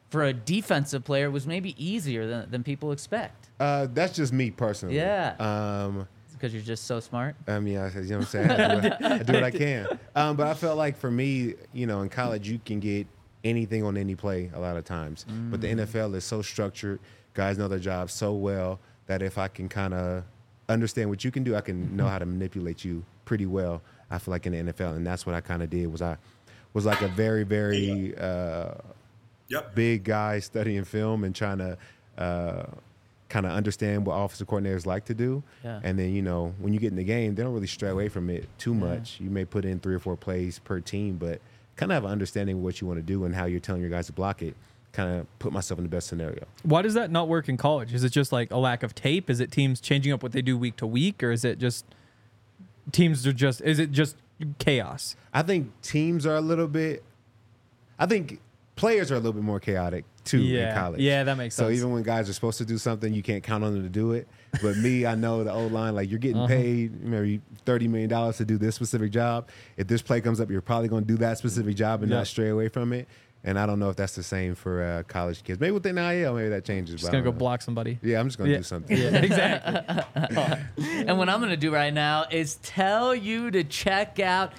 for a defensive player was maybe easier than people expect. That's just me personally. Yeah. Because you're just so smart. I mean, you know what I'm saying? I do what I can. But I felt like for me, in college, you can get anything on any play a lot of times. But the NFL is so structured. Guys know their job so well that if I can kind of understand what you can do, I can know how to manipulate you pretty well, I feel like, in the NFL. And that's what I kind of did. I was like a very, very big guy studying film and trying to kind of understand what offensive coordinators like to do. Yeah. And then, when you get in the game, they don't really stray away from it too much. You may put in 3 or 4 plays per team, but kind of have an understanding of what you want to do and how you're telling your guys to block it. Kind of put myself in the best scenario. Why does that not work in college? Is it just like a lack of tape? Is it teams changing up what they do week to week? Or is it just is it just chaos? I think teams are I think players are a little bit more chaotic too in college. Yeah, that makes sense. So even when guys are supposed to do something, you can't count on them to do it. But me, I know the O-line, like, you're getting paid maybe $30 million to do this specific job. If this play comes up, you're probably going to do that specific job and not stray away from it. And I don't know if that's the same for college kids. Maybe with the NIL, maybe that changes. Just going to go block somebody. Yeah, I'm just going to do something. Yeah, exactly. And what I'm going to do right now is tell you to check out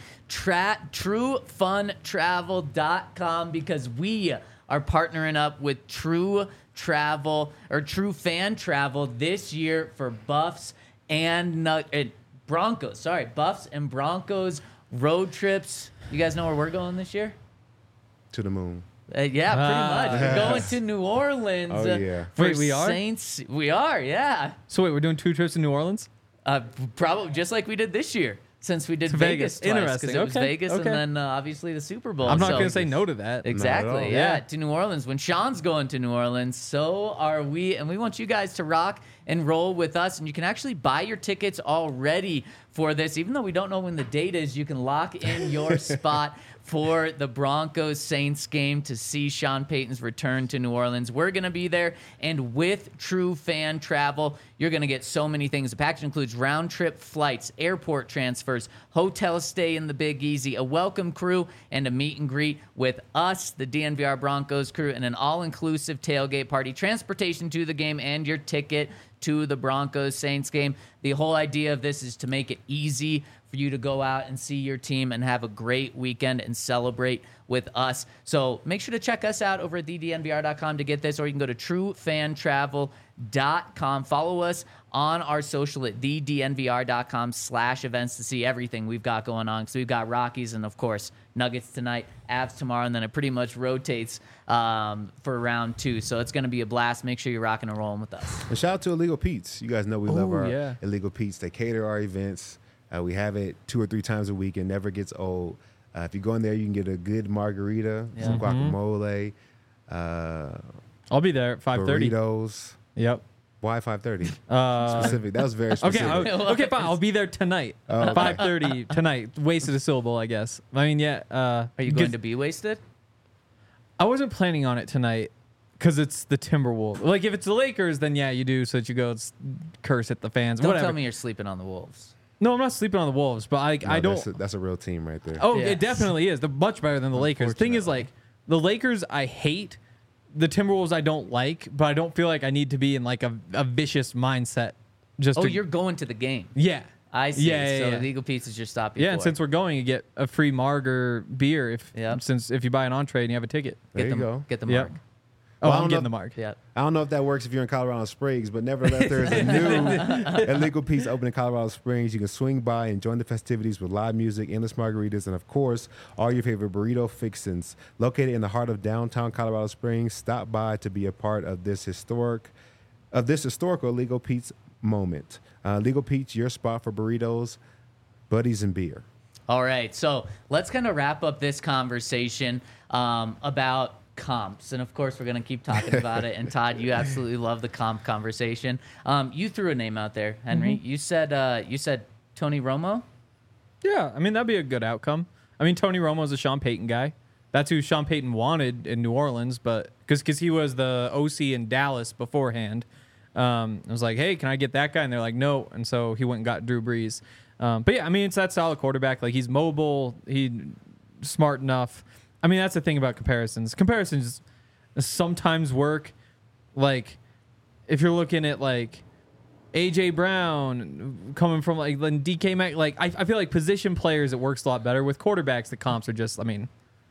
TrueFunTravel.com, because we are partnering up with True Fan Travel this year for Buffs and Broncos. Sorry, Buffs and Broncos road trips. You guys know where we're going this year? To the moon. Yeah, pretty much. We're going to New Orleans. Oh, yeah. For Wait, we are? Saints. We are, yeah. So wait, we're doing 2 trips to New Orleans? Probably just like we did this year, since we did To Vegas twice, Interesting. because it was Okay. Vegas Okay. and then obviously the Super Bowl. I'm not So- going to say no to that. Exactly, all. yeah, Yeah. to New Orleans. When Sean's going to New Orleans, so are we, and we want you guys to rock and roll with us. And you can actually buy your tickets already for this, even though we don't know when the date is. You can lock in your spot for the Broncos Saints game to see Sean Payton's return to New Orleans. We're going to be there, and with True Fan Travel, you're going to get so many things. The package includes round-trip flights, airport transfers, hotel stay in the Big Easy, a welcome crew, and a meet and greet with us, the DNVR Broncos crew, and an all-inclusive tailgate party, transportation to the game, and your ticket to the Broncos Saints game. The whole idea of this is to make it easy for you to go out and see your team and have a great weekend and celebrate with us. So make sure to check us out over at thednvr.com to get this, or you can go to truefantravel.com. Follow us on our social at thednvr.com/events to see everything we've got going on. So we've got Rockies and, of course, Nuggets tonight, Avs tomorrow, and then it pretty much rotates for round 2. So it's going to be a blast. Make sure you're rocking and rolling with us. And shout out to Illegal Pete's. You guys know we love our yeah. Illegal Pete's. They cater our events. We have it 2 or 3 times a week. It never gets old. If you go in there, you can get a good margarita, some guacamole, I'll be there at 5:30. burritos. Yep. Why 5:30? Uh, Specific. That was very Okay, specific. okay, fine. I'll be there tonight. Oh, okay. 5:30 tonight. Wasted a syllable, I guess. I mean, yeah. Are you going to be wasted? I wasn't planning on it tonight because it's the Timberwolves. Like, if it's the Lakers, then yeah, you do, so that you go curse at the fans. Don't Whatever. tell me you're sleeping on the Wolves. No, I'm not sleeping on the Wolves, but I don't. That's a real team right there. Oh, Yeah. it definitely is. They're much better than the Lakers. The thing is, like, the Lakers I hate. The Timberwolves I don't like, but I don't feel like I need to be in like a vicious mindset. Oh, you're going to the game. Yeah. I see. Yeah, So yeah. the Eagle Pizza's your stop. Yeah, and since we're going, you get a free marg or beer if you buy an entree and you have a ticket. There you go. Get the Yep. mark. Oh, Well, I I'm don't getting know- the mark. Yeah. I don't know if that works if you're in Colorado Springs, but nevertheless, there is a new Illegal Pete's open in Colorado Springs. You can swing by and join the festivities with live music, endless margaritas, and of course, all your favorite burrito fixins. Located in the heart of downtown Colorado Springs, stop by to be a part of this historical Illegal Pete's moment. Legal Pete's, your spot for burritos, buddies, and beer. All right. So let's kind of wrap up this conversation about comps. And of course, we're going to keep talking about it. And Todd, you absolutely love the comp conversation. You threw a name out there, Henry. You said Tony Romo. Yeah, I mean, that'd be a good outcome. I mean, Tony Romo's a Sean Payton guy. That's who Sean Payton wanted in New Orleans, but because he was the OC in Dallas beforehand. I was like, hey, can I get that guy? And they're like, no. And so he went and got Drew Brees. But yeah, I mean, it's that solid quarterback. Like, he's mobile. He's smart enough. I mean, that's the thing about comparisons. sometimes work. Like, if you're looking at like AJ Brown coming from like DK Mac, like I feel like position players it works a lot better. With quarterbacks, the comps are just, I mean,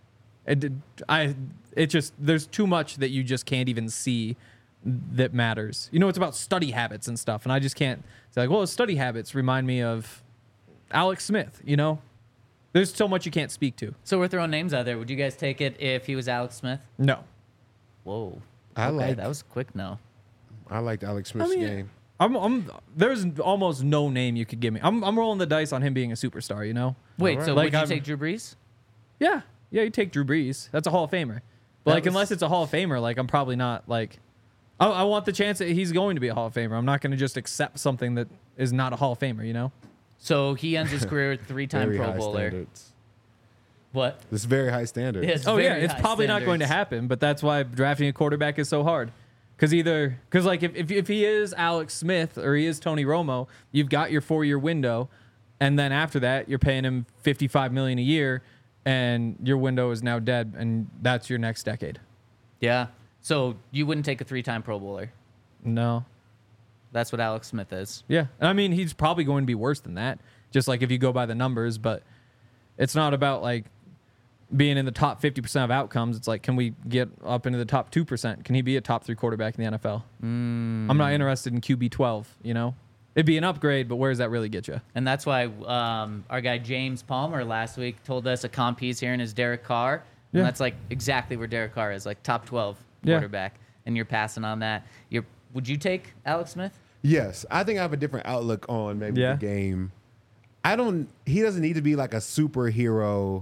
it just there's too much that you just can't even see that matters. You know, it's about study habits and stuff, and I just can't say like, well, study habits remind me of Alex Smith. You know, there's so much you can't speak to. So we're throwing names out there. Would you guys take it if he was Alex Smith? No. Whoa. I that was quick. No. I liked Alex Smith's game. There's almost no name you could give me. I'm rolling the dice on him being a superstar. You know. Wait. All right. So Like, would you I'm- take Drew Brees? Yeah, you take Drew Brees. That's a Hall of Famer. But like, unless it's a Hall of Famer, like I'm probably not like. I want the chance that he's going to be a Hall of Famer. I'm not going to just accept something that is not a Hall of Famer. You know. So he ends his career with 3-time Very Pro high Bowler. standards. What? This is very high standards. Yeah, it's Oh yeah, very it's high probably not going to standards. happen. But that's why drafting a quarterback is so hard. Because like if he is Alex Smith or he is Tony Romo, you've got your 4-year window, and then after that you're paying him $55 million a year, and your window is now dead, and that's your next decade. Yeah. So you wouldn't take a 3-time Pro Bowler. No. That's what Alex Smith is. Yeah. I mean, he's probably going to be worse than that, just like if you go by the numbers, but it's not about like being in the top 50% of outcomes. It's like, can we get up into the top 2%? Can he be a top 3 quarterback in the NFL? I'm not interested in QB 12, you know? It'd be an upgrade, but where does that really get you? And that's why our guy James Palmer last week told us a comp he's hearing is Derek Carr. And Yeah. that's like exactly where Derek Carr is, like top 12 Yeah. quarterback. And you're passing on that. Would you take Alex Smith? Yes, I think I have a different outlook on maybe Yeah. the game. He doesn't need to be like a superhero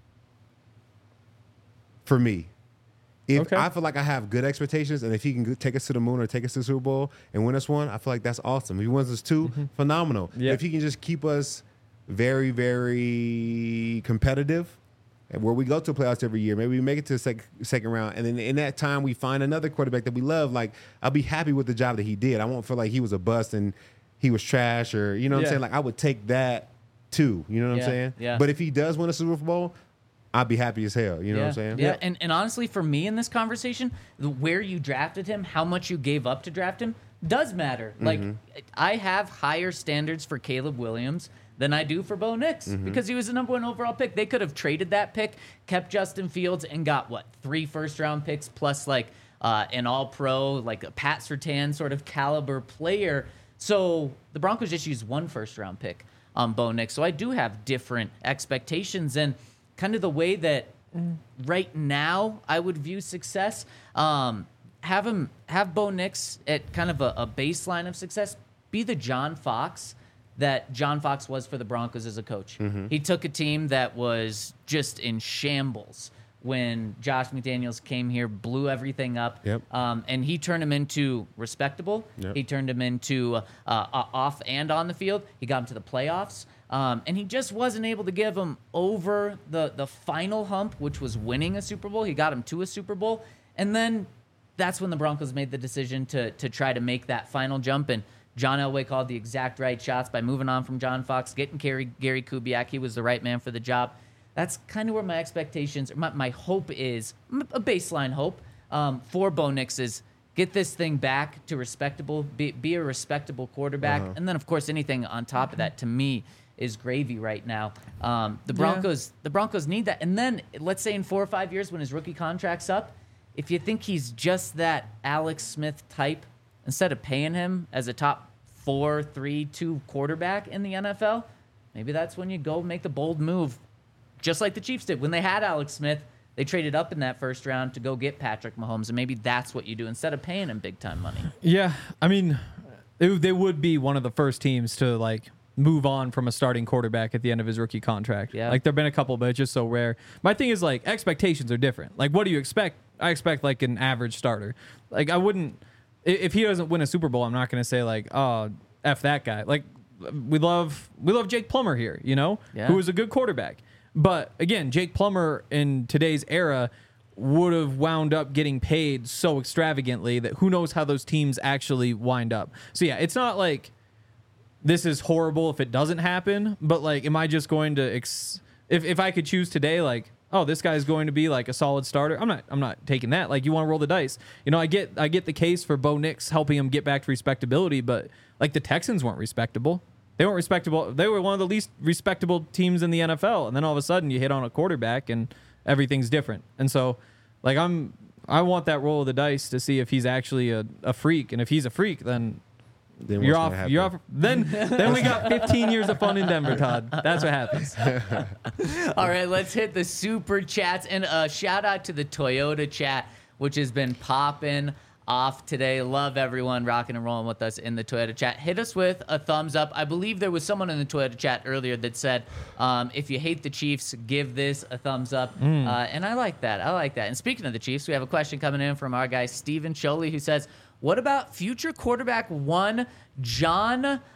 for me. If Okay. I feel like I have good expectations, and if he can take us to the moon or take us to the Super Bowl and win us one, I feel like that's awesome. If he wins us 2, phenomenal. Yeah. If he can just keep us very, very competitive, and where we go to playoffs every year, maybe we make it to the second round, and then in that time we find another quarterback that we love, like I'll be happy with the job that he did. I won't feel like he was a bust and he was trash, or you know what Yeah. I'm saying? Like I would take that too. You know what Yeah, I'm saying? yeah. But if he does win a Super Bowl, I'd be happy as hell. You know what I'm saying? Yeah, and honestly, for me in this conversation, where you drafted him, how much you gave up to draft him, does matter. Like, I have higher standards for Caleb Williams than I do for Bo Nix because he was the #1 overall pick. They could have traded that pick, kept Justin Fields, and got, 3 first-round picks plus, like, an all-pro, like a Pat Surtain sort of caliber player. So the Broncos just used 1 first-round pick on Bo Nix. So I do have different expectations, and kind of the way that right now I would view success, have Bo Nix at kind of a baseline of success, be the John Fox that John Fox was for the Broncos as a coach. He took a team that was just in shambles when Josh McDaniels came here, blew everything up, Yep. and he turned him into respectable. Yep. He turned him into off and on the field. He got him to the playoffs. And he just wasn't able to give him over the final hump, which was winning a Super Bowl. He got him to a Super Bowl. And then that's when the Broncos made the decision to try to make that final jump. And John Elway called the exact right shots by moving on from John Fox, getting Gary Kubiak. He was the right man for the job. That's kind of where my expectations, my hope is, a baseline hope for Bo Nix is get this thing back to respectable, be a respectable quarterback. And then, of course, anything on top of that, to me, is gravy right now. The Broncos need that. And then let's say in 4 or 5 years when his rookie contract's up, if you think he's just that Alex Smith type, instead of paying him as a top 4, 3, 2 quarterback in the NFL, maybe that's when you go make the bold move, just like the Chiefs did when they had Alex Smith. They traded up in that first round to go get Patrick Mahomes, and maybe that's what you do instead of paying him big time money. Yeah, I mean, they would be one of the first teams to like move on from a starting quarterback at the end of his rookie contract. Yeah. Like there've been a couple, but it's just so rare. My thing is like expectations are different. Like what do you expect? I expect like an average starter. Like I wouldn't, if he doesn't win a Super Bowl, I'm not going to say like, oh, F that guy. Like we love Jake Plummer here, you know, Yeah. who is a good quarterback. But again, Jake Plummer in today's era would have wound up getting paid so extravagantly that who knows how those teams actually wind up. So yeah, it's not like this is horrible if it doesn't happen, but like, am I just going to, if I could choose today, like, oh, this guy's going to be like a solid starter. I'm not taking that. Like, you want to roll the dice. You know, I get the case for Bo Nix helping him get back to respectability, but like the Texans weren't respectable. They weren't respectable. They were one of the least respectable teams in the NFL. And then all of a sudden you hit on a quarterback and everything's different. And so, like, I want that roll of the dice to see if he's actually a freak. And if he's a freak, then you're off. You're off. Then we got 15 years of fun in Denver, Todd. That's what happens. All right, let's hit the super chats. And a shout out to the Toyota chat, which has been popping off today. Love everyone rocking and rolling with us in the Toyota chat. Hit us with a thumbs up. I believe there was someone in the Toyota chat earlier that said, if you hate the Chiefs, give this a thumbs up. And I like that. And speaking of the Chiefs, we have a question coming in from our guy, Steven Sholey, who says, what about future quarterback one, John, is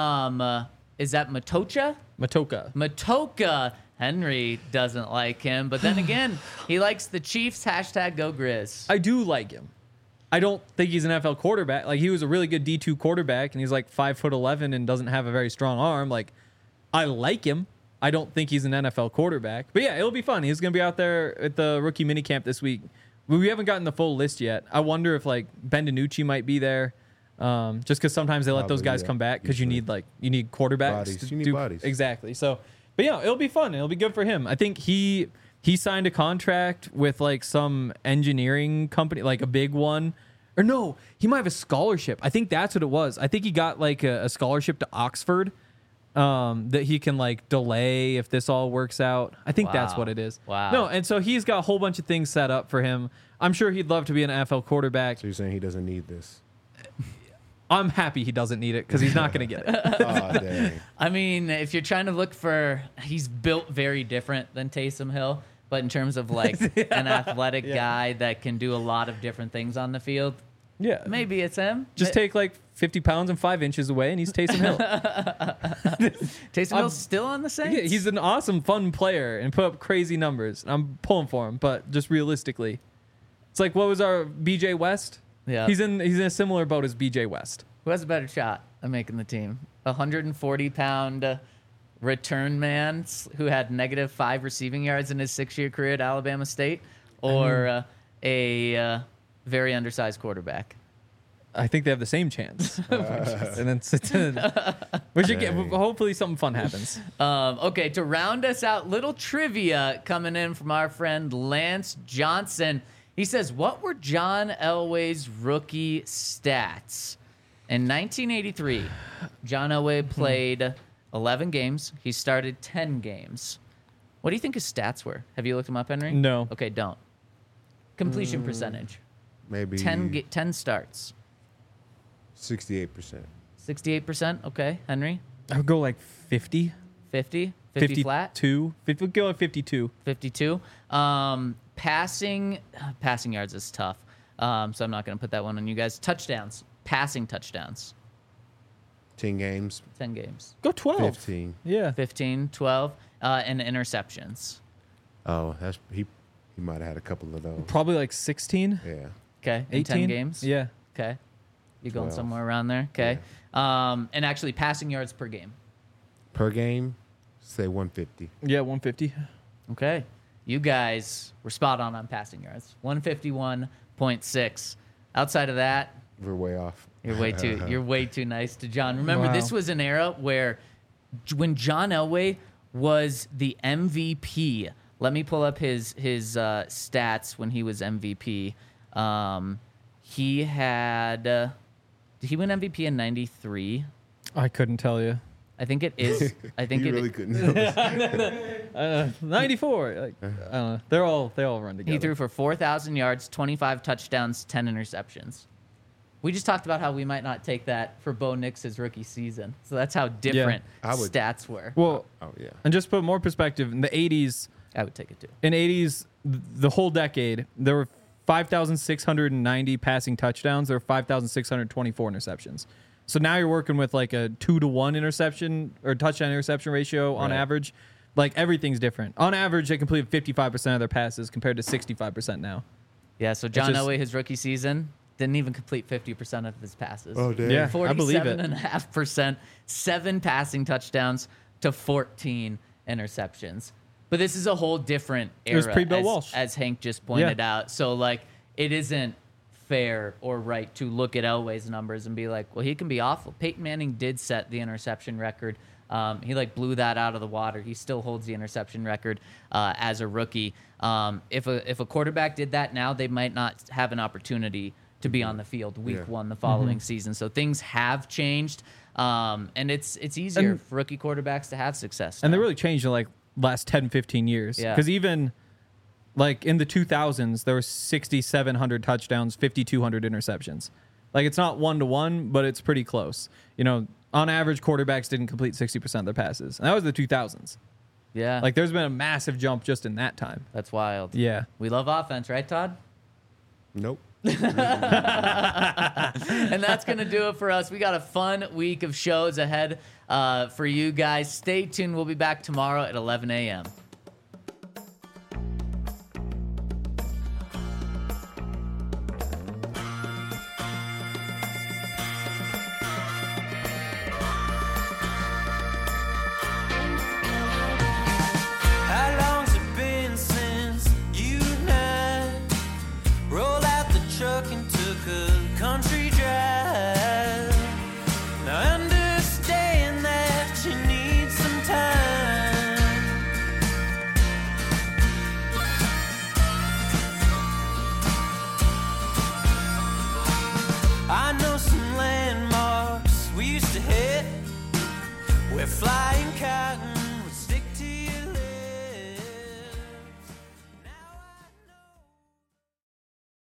that Matocha? Matocha. Henry doesn't like him, but then again, he likes the Chiefs. Hashtag go Grizz. I do like him. I don't think he's an NFL quarterback. Like, he was a really good D2 quarterback, and he's like 5'11" and doesn't have a very strong arm. Like, I like him. I don't think he's an NFL quarterback. But yeah, it'll be fun. He's going to be out there at the rookie minicamp this week. We haven't gotten the full list yet. I wonder if like Ben DiNucci might be there, just because sometimes they let those guys come back because you need quarterbacks. You need bodies. Exactly. So, but yeah, it'll be fun. It'll be good for him. I think he signed a contract with like some engineering company, like a big one. Or no, he might have a scholarship. I think that's what it was. I think he got like a scholarship to Oxford that he can like delay if this all works out. I think that's what it is. Wow. No, and so he's got a whole bunch of things set up for him. I'm sure he'd love to be an NFL quarterback. So you're saying he doesn't need this? I'm happy he doesn't need it because he's not going to get it. Oh, dang. I mean, if you're trying to look for, he's built very different than Taysom Hill, but in terms of like an athletic guy that can do a lot of different things on the field, Yeah. maybe it's him. Just take like 50 pounds and 5 inches away, and he's Taysom Hill. Taysom Hill's still on the Saints? Yeah, he's an awesome, fun player and put up crazy numbers. I'm pulling for him, but just realistically, it's like, what was our BJ West? Yeah. He's in a similar boat as BJ West. Who has a better shot at making the team? A 140-pound return man who had -5 receiving yards in his 6-year career at Alabama State, or a very undersized quarterback? I think they have the same chance. And then we should get. Hopefully, something fun happens. Okay, to round us out, little trivia coming in from our friend Lance Johnson. He says, what were John Elway's rookie stats? In 1983, John Elway played 11 games. He started 10 games. What do you think his stats were? Have you looked him up, Henry? No. Okay, don't. Completion percentage. Maybe 10 starts. 68%. 68%. Okay, Henry? I would go like 50. 50? 50 flat? 52. We'll go at 52. 52. Passing yards is tough. So I'm not going to put that one on you guys. Touchdowns. Passing touchdowns. 10 games. 10 games. Go 12. 15. Yeah. 15, 12. And interceptions. Oh, he might have had a couple of those. Probably like 16. Yeah. Okay. In 10 games? Yeah. Okay. You're going 12. somewhere around there? Okay. And actually passing yards per game. Per game, say 150. Yeah, 150. Okay. You guys were spot on passing yards. 151.6. Outside of that, We're way off. you're way too nice to John. Remember, Wow. this was an era where when John Elway was the MVP, let me pull up his stats when he was MVP. He had did he win MVP in 93? I couldn't tell you. I think it is. I think You it really couldn't. 94. Like, I don't know. They all run together. He threw for 4,000 yards, 25 touchdowns, 10 interceptions. We just talked about how we might not take that for Bo Nix's rookie season. So that's how different I would. stats were. Well, Oh, yeah. and just put more perspective, in the 80s, I would take it too. the whole decade, there were 5,690 passing touchdowns. There were 5,624 interceptions. So now you're working with like a 2-to-1 interception or touchdown interception ratio on Right. average. Like, everything's different. On average, they completed 55% of their passes compared to 65% now. Yeah, so John just- Elway, his rookie season, didn't even complete 50% of his passes. Oh, damn. Yeah. I believe it. 47.5%, 7 passing touchdowns to 14 interceptions. But this is a whole different era. It was pre-Bill Walsh. As Hank just pointed out. So, like, it isn't fair or right to look at Elway's numbers and be like, well, he can be awful. Peyton Manning did set the interception record. He, like, blew that out of the water. He still holds the interception record as a rookie. If a quarterback did that now, they might not have an opportunity to be on the field week one the following season. So things have changed. And it's easier for rookie quarterbacks to have success. And they really changed in like last 10, 15 years. Yeah. Because even like in the 2000s, there were 6,700 touchdowns, 5,200 interceptions. Like it's not 1-to-1, but it's pretty close. You know, on average, quarterbacks didn't complete 60% of their passes. And that was the 2000s. Yeah. Like there's been a massive jump just in that time. That's wild. Yeah. We love offense, right, Todd? Nope. And that's going to do it for us. We got a fun week of shows ahead for you guys. Stay tuned. We'll be back tomorrow at 11 a.m. How long's it been since you and I rolled out the truck and took a country drive? Now I understand that you need some time. I know some landmarks we used to hit where flying cotton